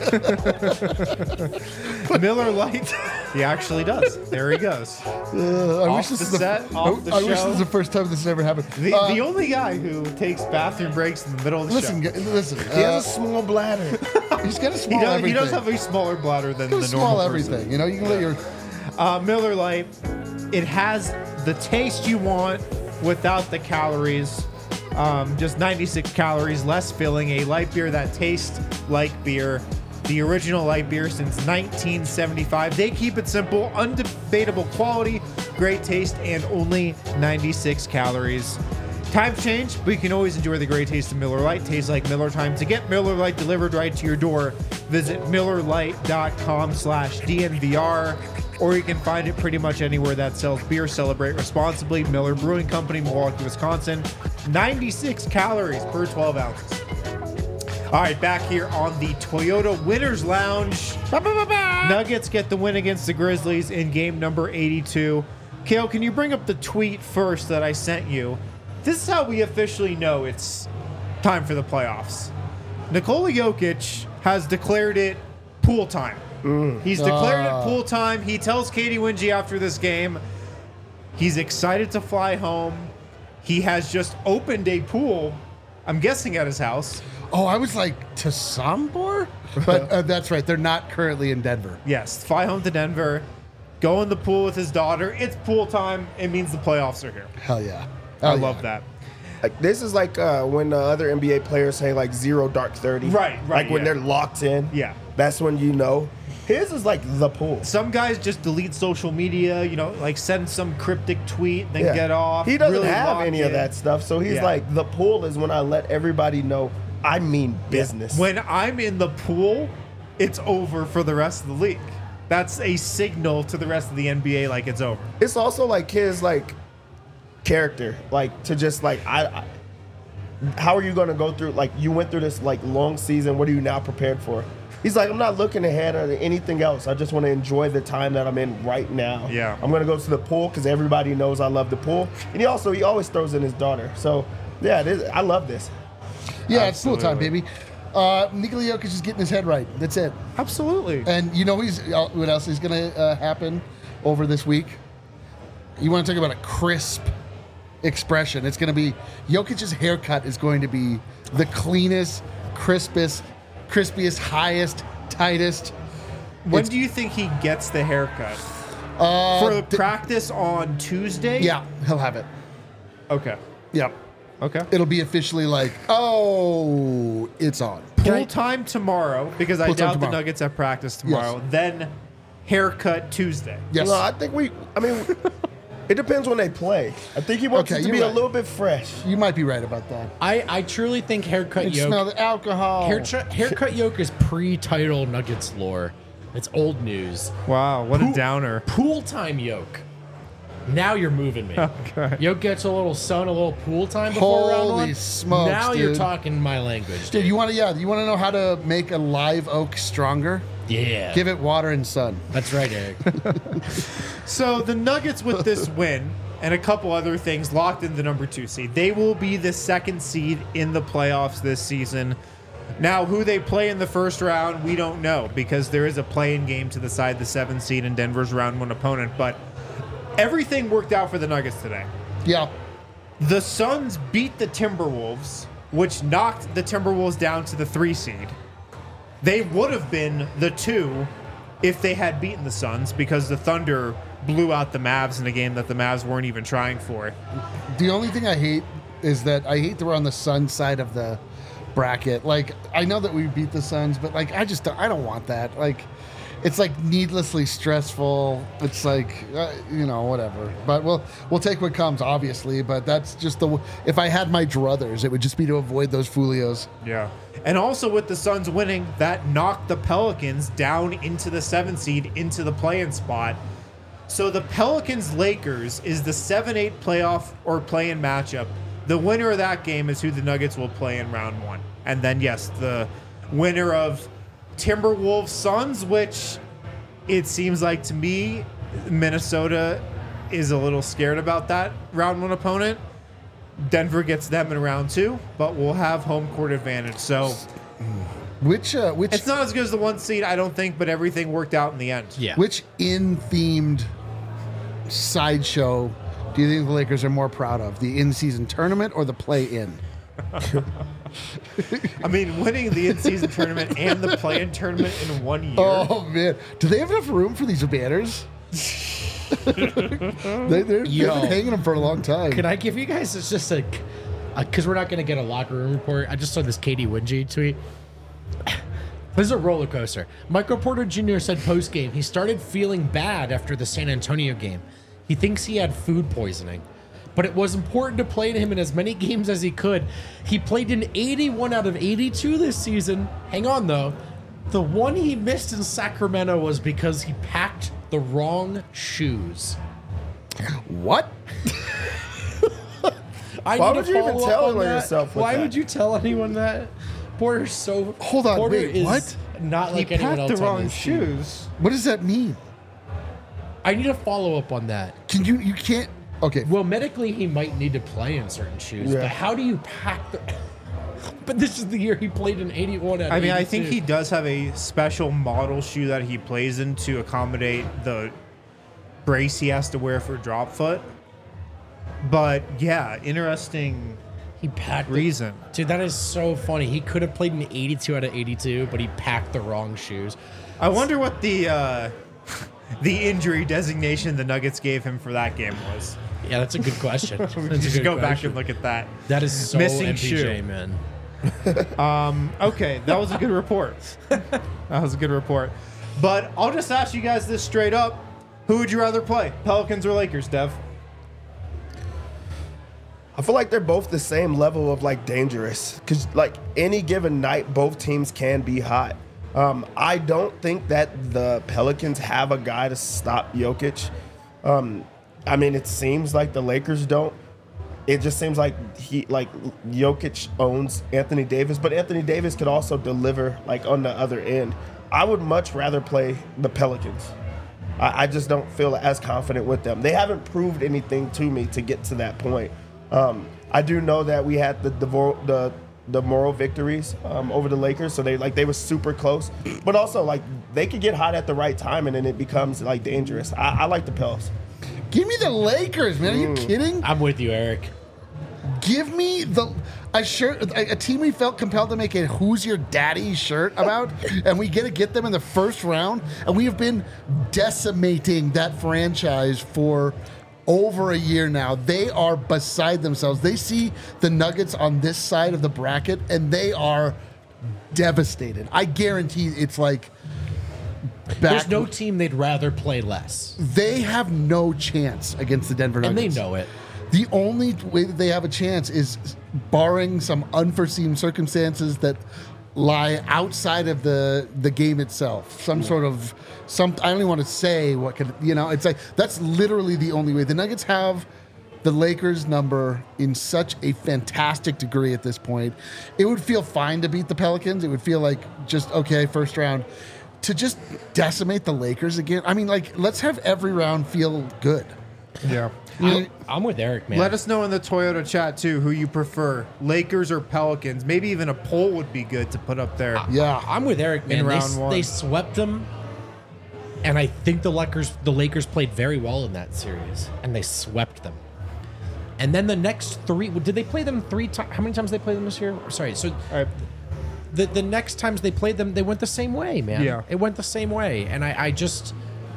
Miller Lite. He actually does. There he goes. I wish this is the first time this has ever happened. The only guy who takes bathroom breaks in the middle of the show. Listen. He has a small bladder. He's got a small everything. He does have a smaller bladder than the normal small person. everything. You know, you can let your Miller Lite. It has the taste you want without the calories. Just 96 calories, less filling. A light beer that tastes like beer. The original light beer since 1975. They keep it simple, undebatable quality, great taste, and only 96 calories. Times change, but you can always enjoy the great taste of Miller Lite. Tastes like Miller time. To get Miller Lite delivered right to your door, visit MillerLite.com/DNVR, or you can find it pretty much anywhere that sells beer. Celebrate responsibly. Miller Brewing Company, Milwaukee, Wisconsin. 96 calories per 12 ounces. All right, back here on the Toyota Winners Lounge. Nuggets get the win against the Grizzlies in game number 82. Kale, can you bring up the tweet first that I sent you? This is how we officially know it's time for the playoffs. Nikola Jokic has declared it pool time. He's declared it pool time. He tells Katie Wingy after this game he's excited to fly home. He has just opened a pool, I'm guessing at his house. Oh, I was like, to Sombor? But that's right. They're not currently in Denver. Yes, fly home to Denver, go in the pool with his daughter. It's pool time. It means the playoffs are here. Hell yeah. I love that. Like, this is like when other NBA players say like 0 dark 30. Right. Like when yeah. they're locked in. Yeah. That's when you know. His is like the pool. Some guys just delete social media, like send some cryptic tweet, then Yeah. get off. He doesn't really have lock any of in. that stuff. So he's Yeah. like, the pool is when I let everybody know I mean business. When I'm in the pool, it's over for the rest of the league. That's a signal to the rest of the NBA like it's over. It's also like his like character, like to just like I how are you going to go through, like you went through this like long season, what are you now prepared for? He's like, I'm not looking ahead at anything else. I just want to enjoy the time that I'm in right now. Yeah. I'm going to go to the pool because everybody knows I love the pool. And he always throws in his daughter. So yeah, I love this. Yeah, it's pool time, Absolutely. baby. Nikola Jokic is getting his head right. That's it. Absolutely. And you know what else is going to happen over this week? You want to talk about a crisp expression. It's going to be Jokic's haircut is going to be the cleanest, crispiest, highest, tightest. When do you think he gets the haircut? For the practice on Tuesday? Yeah, he'll have it. Okay. Yep. Okay. It'll be officially like, oh, it's on. Pool time tomorrow, because I Pool time doubt the tomorrow. Nuggets have practice tomorrow. Then haircut Tuesday. Yes. No, I think it depends when they play. I think he wants Okay, it to you're be a right. little bit fresh. You might be right about that. I truly think haircut You smell yoke. the alcohol. Haircut yoke is pre-title Nuggets lore. It's old news. Wow, what a downer. Pool time yoke. Now you're moving me. Okay. Jokic, a little sun, a little pool time before round one. Holy smokes, Now you're dude. talking my language. Dude, you want to know how to make a live oak stronger? Yeah. Give it water and sun. That's right, Eric. So the Nuggets with this win and a couple other things locked in the number 2 seed. They will be the 2nd seed in the playoffs this season. Now, who they play in the first round, we don't know because there is a play-in game to decide the 7th seed and Denver's round 1 opponent. But everything worked out for the Nuggets today. Yeah. The Suns beat the Timberwolves, which knocked the Timberwolves down to the 3 seed. They would have been the 2 if they had beaten the Suns because the Thunder blew out the Mavs in a game that the Mavs weren't even trying for. The only thing I hate is that I hate that we're on the Sun side of the bracket. Like, I know that we beat the Suns, but like, I don't want that. Like, it's like needlessly stressful. It's like, whatever. But we'll take what comes, obviously. But that's just if I had my druthers, it would just be to avoid those folios. Yeah. And also with the Suns winning, that knocked the Pelicans down into the 7th seed into the play-in spot. So the Pelicans-Lakers is the 7-8 playoff or play-in matchup. The winner of that game is who the Nuggets will play in round 1. And then, yes, the winner of Timberwolves-Suns, which it seems like to me, Minnesota is a little scared about that round 1 opponent. Denver gets them in round 2, but we'll have home court advantage. So Which it's not as good as the 1 seed, I don't think, but everything worked out in the end. Yeah. which in-themed sideshow do you think the Lakers are more proud of? The in-season tournament or the play-in? I mean, winning the in-season tournament and the play-in tournament in 1 year. Oh man, do they have enough room for these banners? They've been hanging them for a long time. Can I give you guys just because we're not going to get a locker room report. I just saw this Katie Wingy tweet. This is a roller coaster. Michael Porter Jr. said post-game he started feeling bad after the San Antonio game. He thinks he had food poisoning. But it was important to play to him in as many games as he could. He played in 81 out of 82 this season. Hang on, though. The one he missed in Sacramento was because he packed the wrong shoes. What? Why would you even tell yourself with Why that? would you tell anyone that? Porter's so... Hold on, Porter wait, is what? Not He like anyone packed else the on wrong this team. shoes. What does that mean? I need a follow-up on that. Can you can't. Okay. Well, medically, he might need to play in certain shoes, Yeah. but how do you pack the... But this is the year he played in 81 out of I mean, 82. I think he does have a special model shoe that he plays in to accommodate the brace he has to wear for drop foot. But yeah, interesting He packed reason. Dude, that is so funny. He could have played in 82 out of 82, but he packed the wrong shoes. I wonder what the injury designation the Nuggets gave him for that game was. Yeah, that's a good question. That's a Just good go back question. and look at that. That is so Missing MPJ, shoe. man. Okay, that was a good report. That was a good report. But I'll just ask you guys this straight up. Who would you rather play, Pelicans or Lakers, Dev? I feel like they're both the same level of like dangerous because like any given night, both teams can be hot. I don't think that the Pelicans have a guy to stop Jokic. I mean, it seems like the Lakers don't. It just seems like Jokic owns Anthony Davis, but Anthony Davis could also deliver like on the other end. I would much rather play the Pelicans. I just don't feel as confident with them. They haven't proved anything to me to get to that point. I do know that we had the moral victories over the Lakers, so they were super close. But also like they could get hot at the right time, and then it becomes like dangerous. I like the Pels. Give me the Lakers, man. Are you kidding? I'm with you, Eric. Give me a team we felt compelled to make a "Who's Your Daddy" shirt about, and we get them in the first round, and we have been decimating that franchise for over a year now. They are beside themselves. They see the Nuggets on this side of the bracket, and they are devastated. I guarantee it's like There's no team they'd rather play less. They have no chance against the Denver And Nuggets. they know it. The only way that they have a chance is barring some unforeseen circumstances that lie outside of the game itself. Some sort of I don't even want to say what could, it's like that's literally the only way. The Nuggets have the Lakers number in such a fantastic degree at this point. It would feel fine to beat the Pelicans. It would feel like just okay, first round. To just decimate the Lakers again. I mean, like, let's have every round feel good. Yeah. I'm with Eric, man. Let us know in the Toyota chat, too, who you prefer, Lakers or Pelicans. Maybe even a poll would be good to put up there. Yeah. I'm with Eric, man. In round one. They swept them, and I think the Lakers played very well in that series, and they swept them. And then the next three, did they play them 3 times? How many times did they play them this year? Sorry, so the next times they played them, they went the same way, man. Yeah. It went the same way, and I just...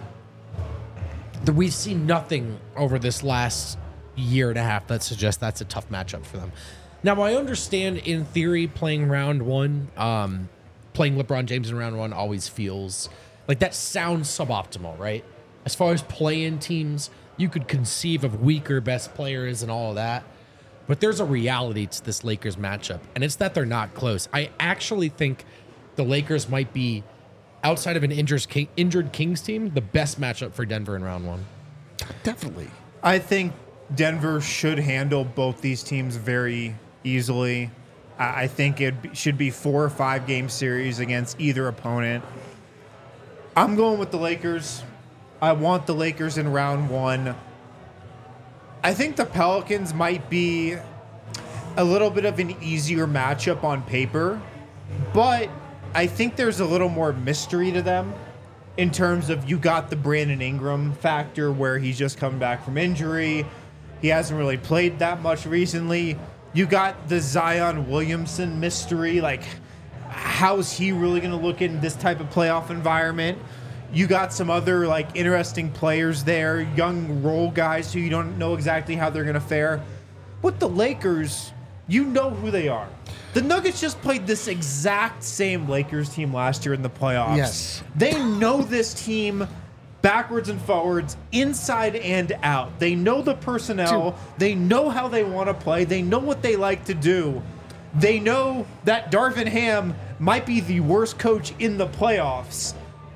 We've seen nothing over this last year and a half that suggests that's a tough matchup for them. Now, I understand in theory playing round one, playing LeBron James in round one always feels like that sounds suboptimal, right? As far as play-in teams, you could conceive of weaker best players and all of that. But there's a reality to this Lakers matchup, and it's that they're not close. I actually think the Lakers might be, outside of an injured Kings team, the best matchup for Denver in round one. Definitely. I think Denver should handle both these teams very easily. I think it should be 4 or 5 game series against either opponent. I'm going with the Lakers. I want the Lakers in round one. I think the Pelicans might be a little bit of an easier matchup on paper, but I think there's a little more mystery to them in terms of you got the Brandon Ingram factor where he's just come back from injury. He hasn't really played that much recently. You got the Zion Williamson mystery. Like, how's he really going to look in this type of playoff environment? You got some other, like, interesting players there, young role guys who you don't know exactly how they're going to fare. With the Lakers, you know who they are. The Nuggets just played this exact same Lakers team last year in the playoffs. Yes. They know this team backwards and forwards, inside and out. They know the personnel. They know how they want to play. They know what they like to do. They know that Darvin Ham might be the worst coach in the playoffs.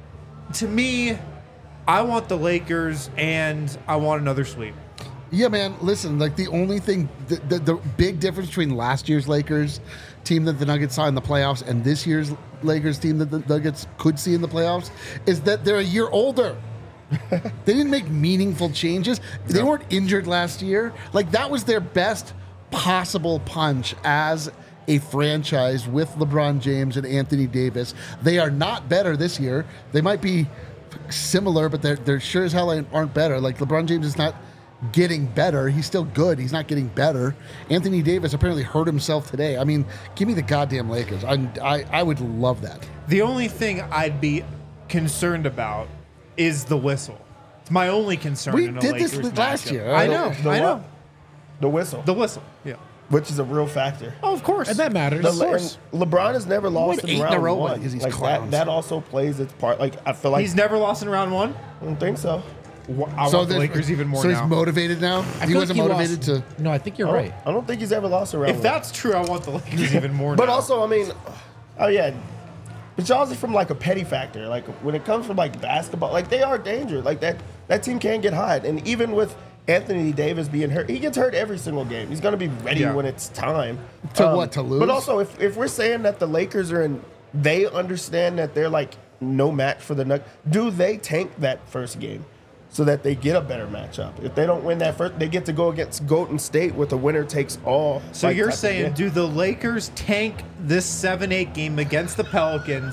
To me, I want the Lakers, and I want another sweep. Yeah, man. Listen, like the only thing, the big difference between last year's Lakers team that the Nuggets saw in the playoffs and this year's Lakers team that the Nuggets could see in the playoffs is that they're a year older. They didn't make meaningful changes. They weren't injured last year. Like, that was their best possible punch as a franchise with LeBron James and Anthony Davis. They are not better this year. They might be similar, but they're sure as hell aren't better. Like, LeBron James is not getting better. He's still good. He's not getting better. Anthony Davis apparently hurt himself today. I mean, give me the goddamn Lakers. I would love that. The only thing I'd be concerned about is the whistle. It's my only concern. We in a did this Lakers last matchup. year. I know. I know. The whistle, The whistle. Yeah. which is a real factor. Oh, of course. And that matters. The- Of course. and LeBron has never lost Won in 8 in a round row one. because he's like clowns. that also plays its part. Like, I feel like He's never lost in round one. I don't think so. I want the there's- Lakers even more so now. he's motivated now. I He feel wasn't like motivated lost- to. No, I think you're right. I don't think he's ever lost a round If one. that's true, I want the Lakers even more But now. also, I mean, oh yeah, but y'all's are from like a petty factor. Like when it comes from like basketball, like they are dangerous. Like that team can get hot. And even with Anthony Davis being hurt, he gets hurt every single game. He's gonna be ready Yeah. when it's time. To lose? But also, if we're saying that the Lakers are in, they understand that they're like no match for the Nuggets. Do they tank that first game so that they get a better matchup? If they don't win that first, they get to go against Golden State with a winner takes all. So like, you're type of saying, game. do the Lakers tank this 7-8 game against the Pelicans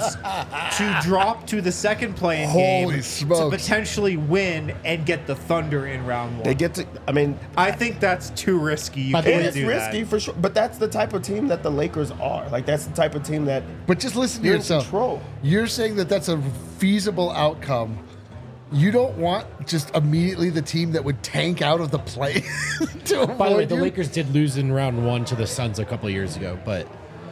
to drop to the second playing Holy game smokes. to potentially win and get the Thunder in round one? They get to. I mean, I think that's too risky. You By the way, can't it's do risky that. for sure, but that's the type of team that the Lakers are. Like that's the type of team that But just listen to you're in yourself. control. You're saying that that's a feasible outcome. You don't want just immediately the team that would tank out of the play to avoid By the way, the you. Lakers did lose in round one to the Suns a couple of years ago, but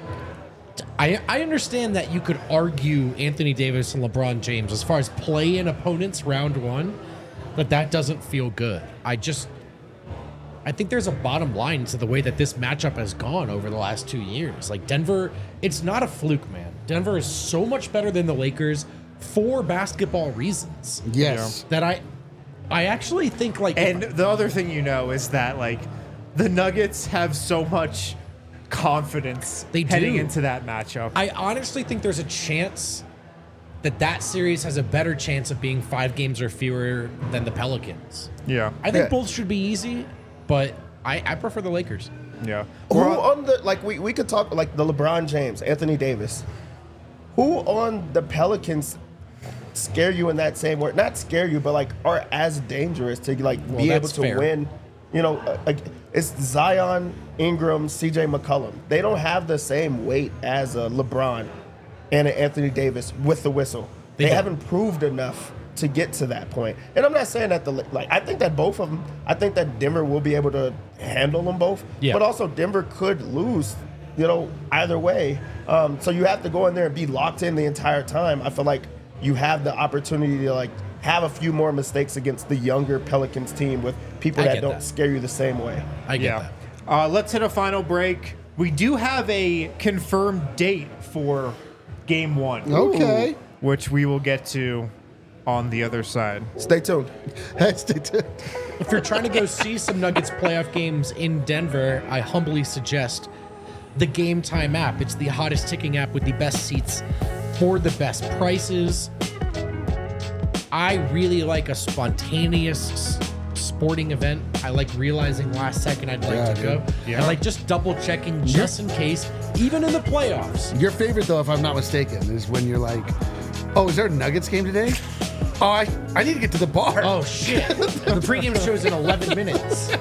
I understand that you could argue Anthony Davis and LeBron James as far as play-in opponents round one, but that doesn't feel good. I I think there's a bottom line to the way that this matchup has gone over the last 2 years. Like Denver, it's not a fluke, man. Denver is so much better than the Lakers for basketball reasons. Yes. That I actually think like And the other thing is that like the Nuggets have so much confidence They heading do. into that matchup. I honestly think there's a chance that series has a better chance of being 5 games or fewer than the Pelicans. Yeah. I think Yeah. both should be easy, but I prefer the Lakers. Yeah. Who on the like we could talk like the LeBron James, Anthony Davis. Who on the Pelicans scare you in that same way? Not scare you, but like are as dangerous to like Well, be able that's to fair. win. Like it's Zion, Ingram, CJ McCollum. They don't have the same weight as a LeBron and an Anthony Davis with the whistle. They don't. haven't proved enough to get to that point. And I'm not saying that I think that both of them. I think that Denver will be able to handle them both. Yeah. But also Denver could lose. Either way. So you have to go in there and be locked in the entire time. I feel like you have the opportunity to like have a few more mistakes against the younger Pelicans team with people I that get don't that. scare you the same way. I get Yeah. that. Let's hit a final break. We do have a confirmed date for Game 1. Okay. Which we will get to on the other side. Stay tuned. Stay tuned. If you're trying to go see some Nuggets playoff games in Denver, I humbly suggest the Game Time app. It's the hottest ticking app with the best seats for the best prices. I really like a spontaneous sporting event. I like realizing last second I'd like Yeah, to go. dude. Yeah. I like just double checking just in case, even in the playoffs. Your favorite, though, if I'm not mistaken, is when you're like, oh, is there a Nuggets game today? Oh, I need to get to the bar. Oh shit! The pregame show's in 11 minutes.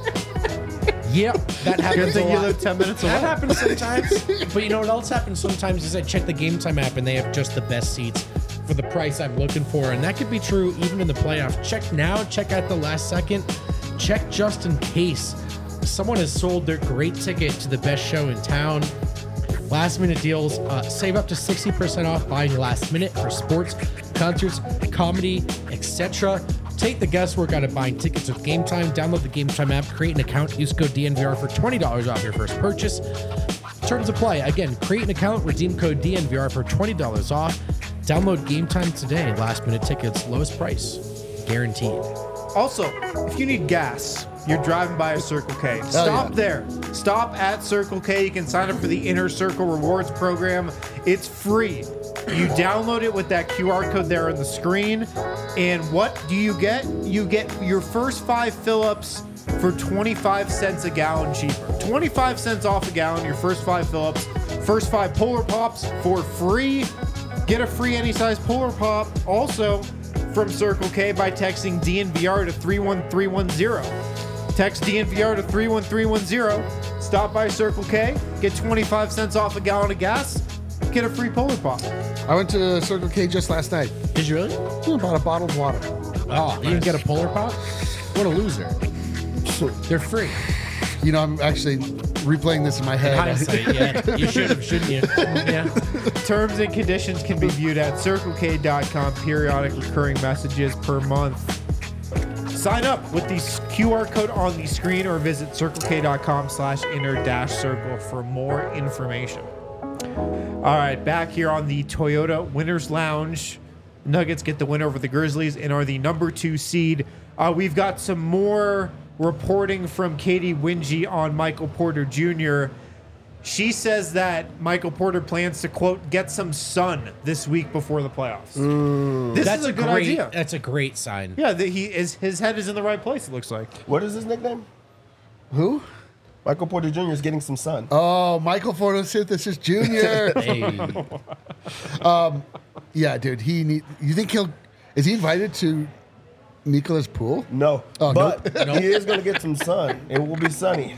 Yep, that Good happens a thing you lot. live 10 minutes away. That happens sometimes. But you know what else happens sometimes is I check the Game Time app and they have just the best seats for the price I'm looking for. And that could be true even in the playoffs. Check now, check at the last second, check just in case someone has sold their great ticket to the best show in town. Last minute deals, save up to 60% off buying last minute for sports, concerts, comedy, etc. Take the guesswork out of buying tickets with Game Time. Download the Game Time app, create an account, use code DNVR for $20 off your first purchase. Terms apply. Again, create an account, redeem code DNVR for $20 off. Download Game Time today. Last minute tickets, lowest price, guaranteed. Also, if you need gas, you're driving by a Circle K. Stop yeah. there. Stop at Circle K. You can sign up for the Inner Circle Rewards program. It's free. You download it with that QR code there on the screen. And what do you get? You get your first 5 fill-ups for 25 cents a gallon cheaper. 25 cents off a gallon, your first 5 fill-ups. First 5 Polar Pops for free. Get a free any size Polar Pop also from Circle K by texting DNVR to 31310. Text DNVR to 31310. Stop by Circle K. Get 25 cents off a gallon of gas. Get a free Polar Pop. I went to Circle K just last night. Did you really? Bought a bottle of water. Oh, you didn't get a Polar Pop? What a loser. They're free. You know, I'm actually replaying this in my head. Hindsight, yeah. You should have, shouldn't you? Yeah. Terms and conditions can be viewed at CircleK.com. Periodic recurring messages per month. Sign up with the QR code on the screen or visit CircleK.com/inner-circle for more information. All right, back here on the Toyota Winners Lounge. Nuggets get the win over the Grizzlies and are the number 2 seed. We've got some more reporting from Katie Winge on Michael Porter Jr. She says that Michael Porter plans to, quote, get some sun this week before the playoffs. This That's is a good great idea. That's a great sign. Yeah, his head is in the right place, it looks like. What is his nickname? Who? Michael Porter Jr. is getting some sun. Oh, Michael Photosynthesis Jr. Hey. Yeah, dude. You think is he invited to Nicola's pool? No, Oh, but nope. he is going to get some sun. It will be sunny.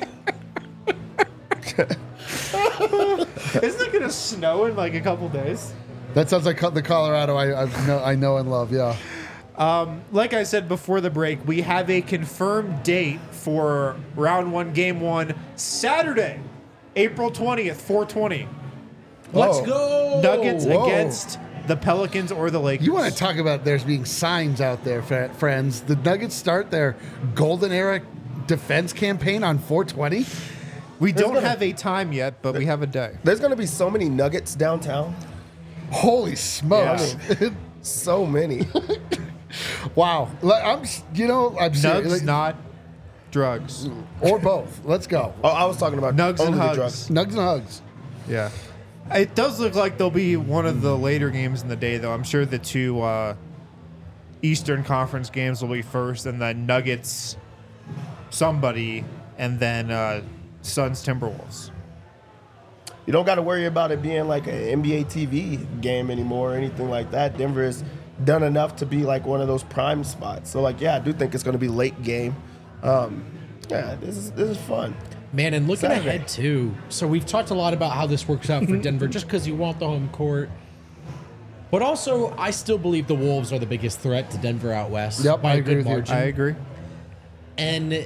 Isn't it going to snow in like a couple days? That sounds like the Colorado I know and love. Yeah. Like I said before the break, we have a confirmed date for round 1, game 1, Saturday, April 20th, 4:20. Let's Whoa. go. Nuggets whoa. against the Pelicans or the Lakers. You want to talk about there's being signs out there, friends. The Nuggets start their golden era defense campaign on 420? We don't have a time yet, but we have a day. There's going to be so many nuggets downtown. Holy smokes. So many. Wow. Like, I'm Nugs, serious. Like, not drugs. or both. Let's go. Oh, I was talking about Nugs and only the hugs. drugs. Nugs and hugs. Yeah. It does look like there'll be one of the later games in the day, though. I'm sure the two Eastern Conference games will be first, and then Nuggets, somebody, and then Suns Timberwolves. You don't got to worry about it being like an NBA TV game anymore or anything like that. Denver has done enough to be like one of those prime spots. So, like, yeah, I do think it's going to be late game. Yeah, this is fun. Man, and looking Saturday. ahead too. So we've talked a lot about how this works out for Denver, just because you want the home court. But also, I still believe the Wolves are the biggest threat to Denver out west Yep, by I a agree good with you. margin. I agree. And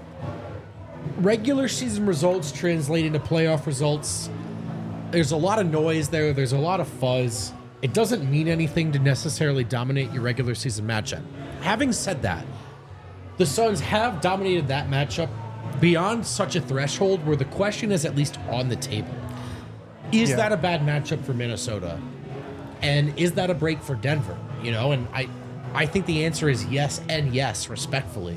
regular season results translate into playoff results. There's a lot of noise there. There's a lot of fuzz. It doesn't mean anything to necessarily dominate your regular season matchup. Having said that, the Suns have dominated that matchup beyond such a threshold where the question is at least on the table. Is Yeah. that a bad matchup for Minnesota? And is that a break for Denver? And I think the answer is yes and yes, respectfully.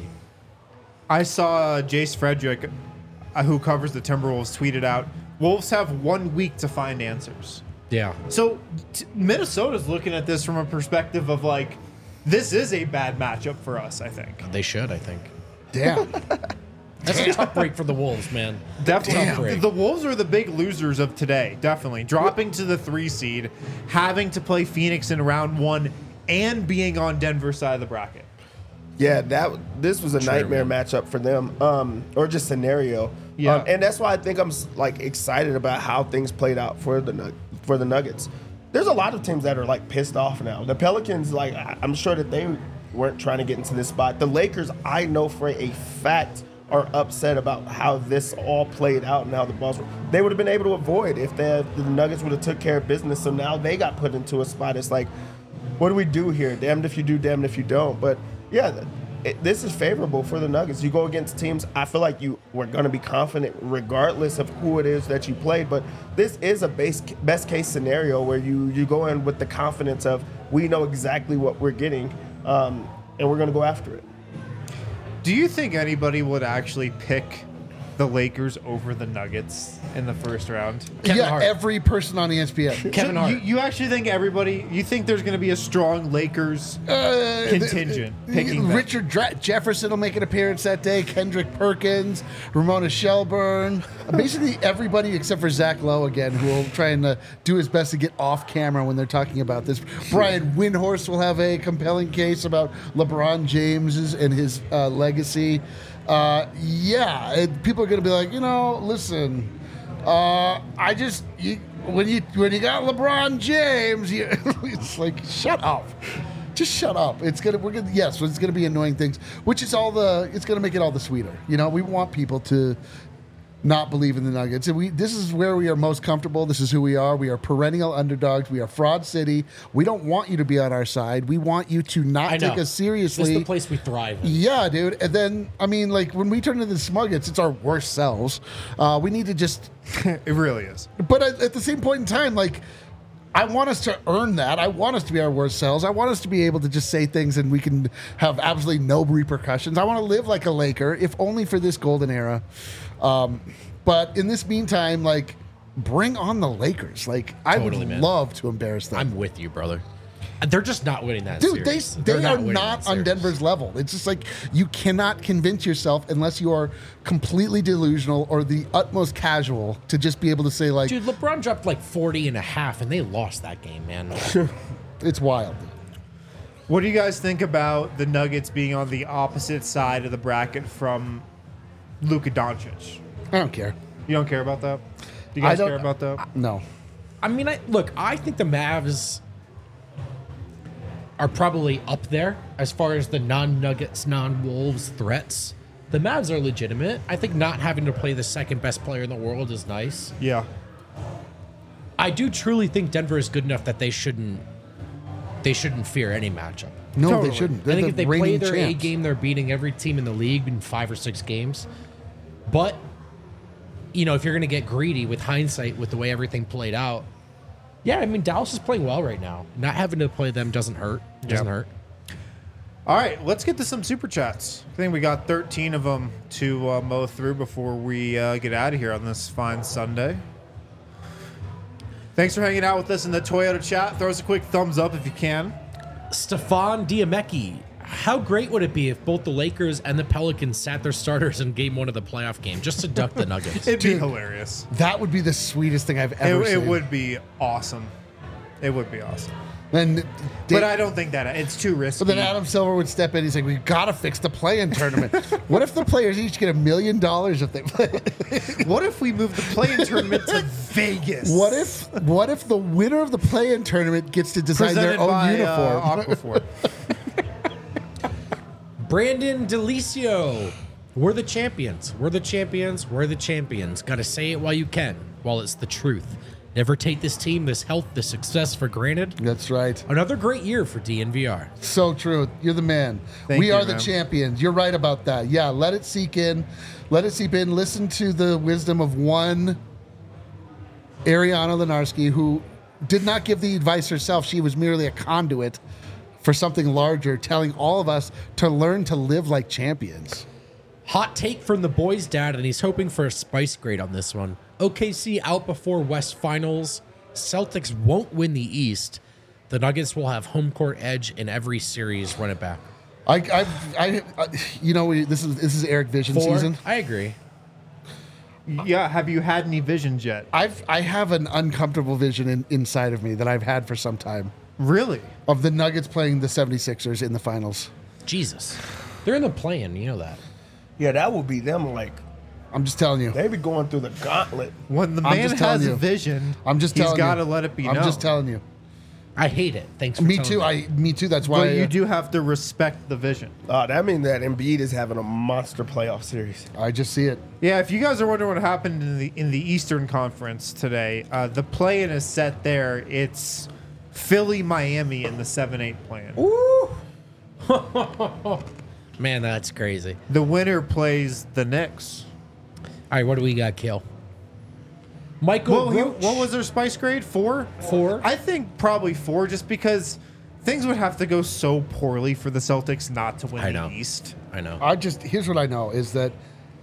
I saw Jace Frederick, who covers the Timberwolves, tweeted out, Wolves have 1 week to find answers. Yeah. So Minnesota's looking at this from a perspective of like, this is a bad matchup for us, I think. They should, I think. Damn. That's a tough break for the Wolves, man. Definitely. Tough break. The Wolves are the big losers of today, definitely. Dropping to the 3 seed, having to play Phoenix in round 1, and being on Denver's side of the bracket. Yeah, this was a nightmare man. matchup for them, or just scenario. Yeah. And that's why I think I'm like excited about how things played out for the Nuggets. There's a lot of teams that are like pissed off now. The Pelicans, like I'm sure that they weren't trying to get into this spot. The Lakers, I know for a fact, are upset about how this all played out and how the balls were. They would have been able to avoid if the Nuggets would have took care of business. So now they got put into a spot. It's like, what do we do here? Damned if you do, damned if you don't. But yeah, this is favorable for the Nuggets. You go against teams, I feel like you were going to be confident regardless of who it is that you played. But this is a best case scenario where you go in with the confidence of we know exactly what we're getting, and we're going to go after it. Do you think anybody would actually pick the Lakers over the Nuggets in the first round? Kevin Hart. Every person on ESPN. Kevin So Hart. you actually think you think there's going to be a strong Lakers contingent picking them? Richard Jefferson will make an appearance that day. Kendrick Perkins, Ramona Shelburne, basically everybody except for Zach Lowe again, who will try and do his best to get off camera when they're talking about this. Brian Windhorst will have a compelling case about LeBron James and his legacy. People are going to be like, listen, when you got LeBron James, it's like, shut up. Just shut up. It's gonna be annoying things, which is it's gonna make it all the sweeter. We want people to not believe in the Nuggets. And this is where we are most comfortable. This is who we are. We are perennial underdogs. We are fraud city. We don't want you to be on our side. We want you to not take us seriously. This is the place we thrive in. Yeah, dude. And then, when we turn into the Smuggets, it's our worst selves. We need to just... It really is. But at the same point in time, I want us to earn that. I want us to be our worst selves. I want us to be able to just say things and we can have absolutely no repercussions. I want to live like a Laker, if only for this golden era. But in this meantime, bring on the Lakers. I Totally, would man. love to embarrass them. I'm with you, brother. They're just not winning that Dude, series. they They're are winning not that on series. Denver's level. It's just you cannot convince yourself unless you are completely delusional or the utmost casual to just be able to say Dude, LeBron dropped 40 and a half, and they lost that game, man. it's wild. What do you guys think about the Nuggets being on the opposite side of the bracket from Luka Doncic? I don't care. You don't care about that? Do you guys care about that? No. I mean, I think the Mavs are probably up there as far as the non-Nuggets, non-Wolves threats. The Mavs are legitimate. I think not having to play the second best player in the world is nice. Yeah. I do truly think Denver is good enough that they shouldn't they shouldn't fear any matchup. No, Totally. they shouldn't. I They're think the if they play reigning their A champs. game, they're beating every team in the league in 5 or 6 games. But, you know, if you're going to get greedy with hindsight with the way everything played out, yeah, I mean, Dallas is playing well right now. Not having to play them doesn't hurt. Doesn't hurt. All right, let's get to some super chats. I think we got 13 of them to mow through before we get out of here on this fine Sunday. Thanks for hanging out with us in the Toyota chat. Throw us a quick thumbs up if you can. Stefan Diamecki. How great would it be if both the Lakers and the Pelicans sat their starters in game 1 of the playoff game just to duck the Nuggets? It'd be hilarious. That would be the sweetest thing I've ever seen. It would be awesome. It would be awesome. And But I don't think that it's too risky. But then Adam Silver would step in. He's like, "We've got to fix the play-in tournament." What if the players each get $1 million if they play? What if we move the play-in tournament to Vegas? What if the winner of the play-in tournament gets to design Presented their own by, uniform? Aquaphor. Brandon Delicio. We're the champions. We're the champions. We're the champions. Got to say it while you can, while it's the truth. Never take this team, this health, this success for granted. That's right. Another great year for DNVR. So true. You're the man. Thank We you, are the man. champions. You're right about that. Yeah, let it seep in. Let it seep in. Listen to the wisdom of one Ariana Lenarski, who did not give the advice herself. She was merely a conduit for something larger, telling all of us to learn to live like champions. Hot take from the boys' dad, and he's hoping for a spice grade on this one. OKC out before West Finals. Celtics won't win the East. The Nuggets will have home court edge in every series. Run it back. This is Eric Vision 4. season. I agree. Yeah, have you had any visions yet? I have an uncomfortable vision inside of me that I've had for some time Really? of the Nuggets playing the 76ers in the finals. Jesus. They're in the play-in. You know that. Yeah, that would be them. Like I'm just telling you. they be going through the gauntlet. When the I'm man just telling has you. a vision, I'm just telling he's you. got to let it be I'm known. just telling you. I hate it. Thanks for Me telling too. Me too. That's why But you do have to respect the vision. That means that Embiid is having a monster playoff series. I just see it. Yeah, if you guys are wondering what happened in the Eastern Conference today, the play-in is set there. It's Philly, Miami in the 7-8 plan. Man, that's crazy. The winner plays the Knicks. All right, what do we got, Kill? Michael Well, Roach. what was their spice grade? 4? 4. I think probably 4, just because things would have to go so poorly for the Celtics not to win I the know. East. I know. Here's what I know is that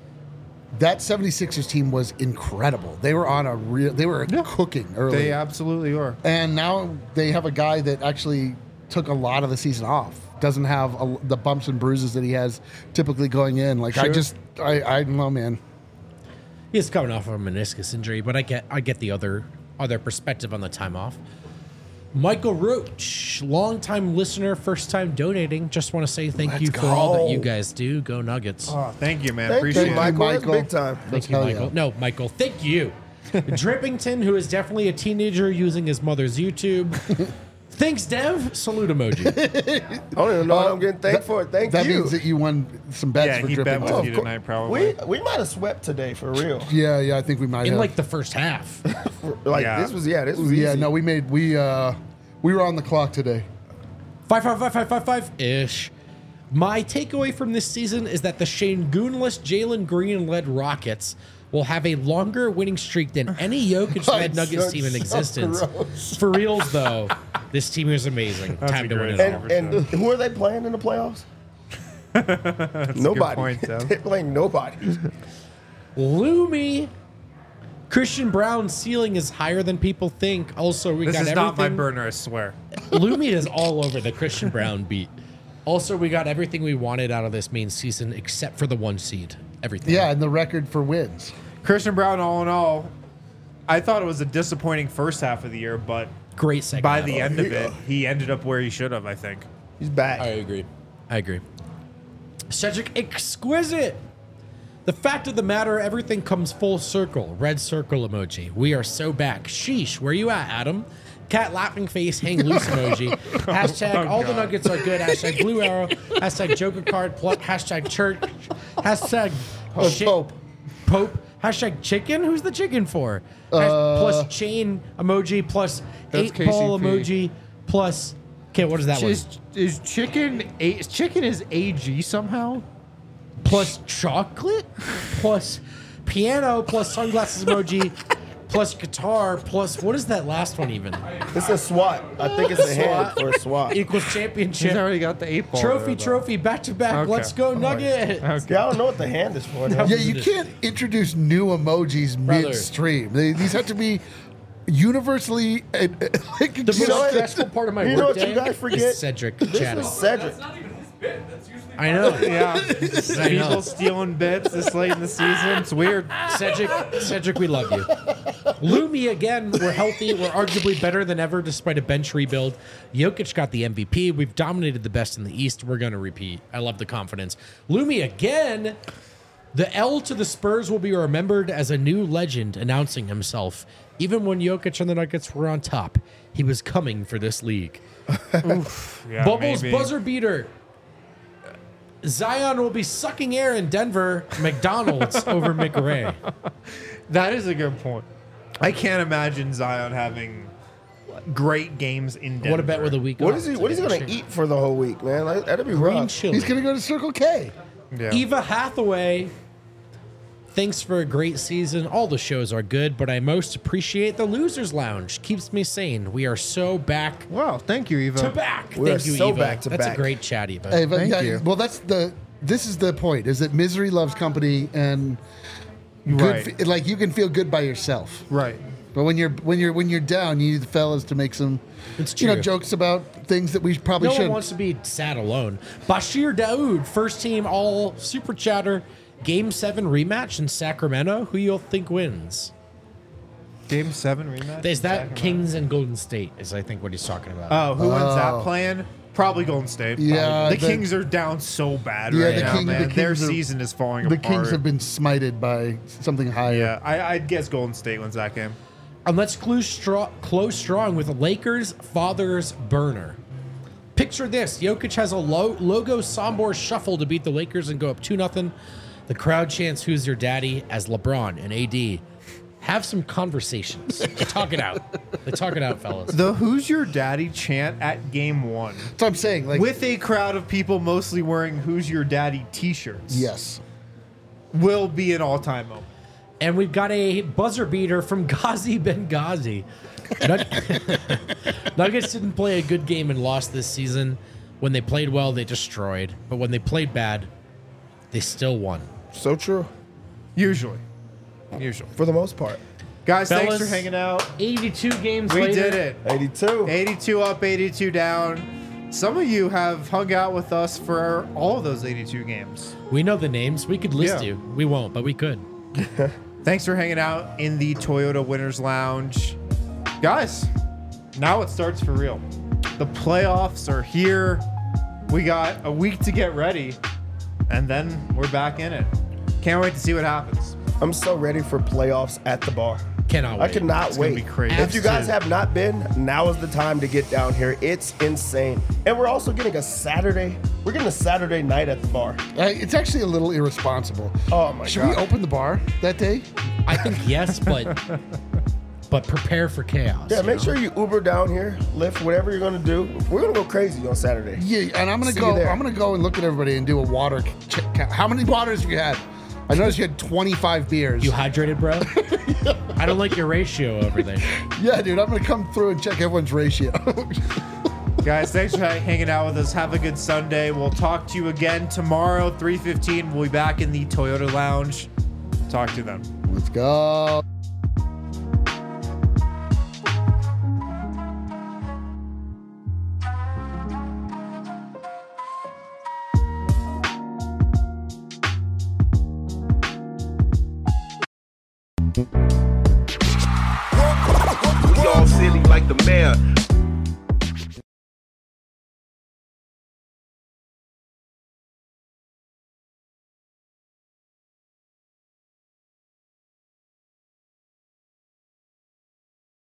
76ers team was incredible. They were on they were cooking early. They absolutely are. And now they have a guy that actually took a lot of the season off. Doesn't have the bumps and bruises that he has typically going in. Like Sure. I don't know, man. He's coming off of a meniscus injury, but I get the other perspective on the time off. Michael Roach, longtime listener, first time donating. Just want to say thank you for all that you guys do. Go Nuggets. Oh, thank you, man. Thank Appreciate you, it. Michael. That's Michael. big time. Thank you, hell Michael. yeah. No, Michael, thank you. Drippington, who is definitely a teenager using his mother's YouTube. Thanks, Dev. Salute emoji. I don't even know what I'm getting thanked for. Thank That you. means that you won some bets Yeah, for he dripping. bet with of you course. tonight, probably. we might have swept today for real. Yeah, I think we might In have. like the first half. Like Yeah. this was easy. yeah, no, we were on the clock today. 5-5-5-5-5-5-ish. My takeaway from this season is that the Shangoonless Jalen Green-led Rockets will have a longer winning streak than any Jokic-led That's Nuggets team in so existence. gross. For reals, though, this team is amazing. Time to win it great all. for And who are they playing in the playoffs? Nobody. point, Tim. They're playing nobody. Lumi. Christian Brown's ceiling is higher than people think. Also, we This got is everything. not my burner, I swear. Lumi is all over the Christian Brown beat. Also, we got everything we wanted out of this main season except for the 1 seed. Everything. Yeah, and the record for wins. Christian Brown, all in all, I thought it was a disappointing first half of the year, but Great second by half. the end of it, he ended up where he should have, I think. He's back. agree. I agree. Cedric Exquisite. The fact of the matter, everything comes full circle. Red circle emoji. We are so back. Sheesh, where you at, Adam? Cat laughing face, hang loose emoji. Hashtag all the nuggets are good. Hashtag blue arrow. Hashtag Joker card. Hashtag church. Hashtag shit- Pope. Hashtag chicken. Who's the chicken for? Plus chain emoji. Plus That's 8-ball KCP. emoji. Plus Okay, what is that one? Is chicken is AG somehow? Plus chocolate, plus piano, plus sunglasses emoji, plus guitar, plus what is that last one even? It's a SWAT. I think it's a hand for a SWAT. Equals He's championship. already got the 8 ball. Trophy, back to back. Okay. Let's go, Nugget. Yeah, I don't know what the hand is for. Yeah, you can't introduce new emojis Brother. midstream. These have to be universally like The you know most what? stressful part of my You know what workday you guys forget? is Cedric This chatting. is Cedric. I know. Yeah. I know. People stealing bits this late in the season. It's weird. Cedric, we love you. Lumi, again, we're healthy. We're arguably better than ever despite a bench rebuild. Jokic got the MVP. We've dominated the best in the East. We're going to repeat. I love the confidence. Lumi, again, the L to the Spurs will be remembered as a new legend announcing himself. Even when Jokic and the Nuggets were on top, he was coming for this league. Yeah, Bubbles maybe. buzzer beater. Zion will be sucking air in Denver McDonald's over McRae. That is a good point. I can't imagine Zion having great games in Denver. What about with a week What off is he? to What is he get gonna a eat for the whole week, man? Like, that'd be green rough. chili? He's gonna go to Circle K. Yeah. Eva Hathaway, thanks for a great season. All the shows are good, but I most appreciate the Losers Lounge. Keeps me sane. We are so back Wow, thank you, Eva. to back. We are Thank you, so Eva. back to That's back. a great chat, Eva. Hey, but Thank yeah, you. Well, this is the point: is that misery loves company, and good, Right. like you can feel good by yourself. Right. But when you're down, you need the fellas to make some, It's you know, true. jokes about things that we probably No one shouldn't. wants to be sad alone. Bashir Daoud, first team all super chatter. Game 7 rematch in Sacramento. Who you'll think wins? Game 7 rematch? Is that Sacramento? Kings and Golden State? Is I think what he's talking about. Oh, who wins that plan? Probably Golden State. Yeah, the the- Kings are down so bad Yeah, right the now, King- the man. Their Kings are- season is falling The apart. Kings have been smited by something higher. Yeah, I'd guess Golden State wins that game. And let's close strong with Lakers Fathers Burner. Picture this. Jokic has a logo Sombor shuffle to beat the Lakers and go up 2-0. The crowd chants, "Who's your daddy?" as LeBron and AD have some conversations. They talk it out. They talk it out, fellas. The Who's Your Daddy chant at game 1 That's what I'm saying. Like, with a crowd of people mostly wearing Who's Your Daddy t-shirts yes. will be an all-time moment. And we've got a buzzer beater from Ghazi Benghazi. Nuggets didn't play a good game and lost this season. When they played well, they destroyed. But when they played bad, they still won. So true. Usually. For the most part. Guys, thanks Fellas, for hanging out. 82 games We later. did it. 82. 82 up, 82 down. Some of you have hung out with us for all of those 82 games. We know the names. We could list Yeah. you. We won't, but we could. Thanks for hanging out in the Toyota Winners Lounge. Guys, now it starts for real. The playoffs are here. We got a week to get ready, and then we're back in it. Can't wait to see what happens. I'm so ready for playoffs at the bar. Cannot wait. I cannot It's gonna wait. be crazy. If you guys Absolutely. have not been, now is the time to get down here. It's insane. And we're also getting a Saturday. We're getting a Saturday night at the bar. It's actually a little irresponsible. Oh my Should God. we open the bar that day? I think yes, but prepare for chaos. Yeah, you make know? sure you Uber down here, Lyft, whatever you're gonna do. We're gonna go crazy on Saturday. Yeah, and I'm gonna See you go. there. I'm gonna go and look at everybody and do a water check. How many waters have you had? I noticed you had 25 beers. You hydrated, bro? I don't like your ratio over there. Yeah, dude, I'm gonna come through and check everyone's ratio. Guys, thanks for hanging out with us. Have a good Sunday. We'll talk to you again tomorrow, 3:15. We'll be back in the Toyota Lounge. Talk to you then. Let's go. We all silly like the mayor.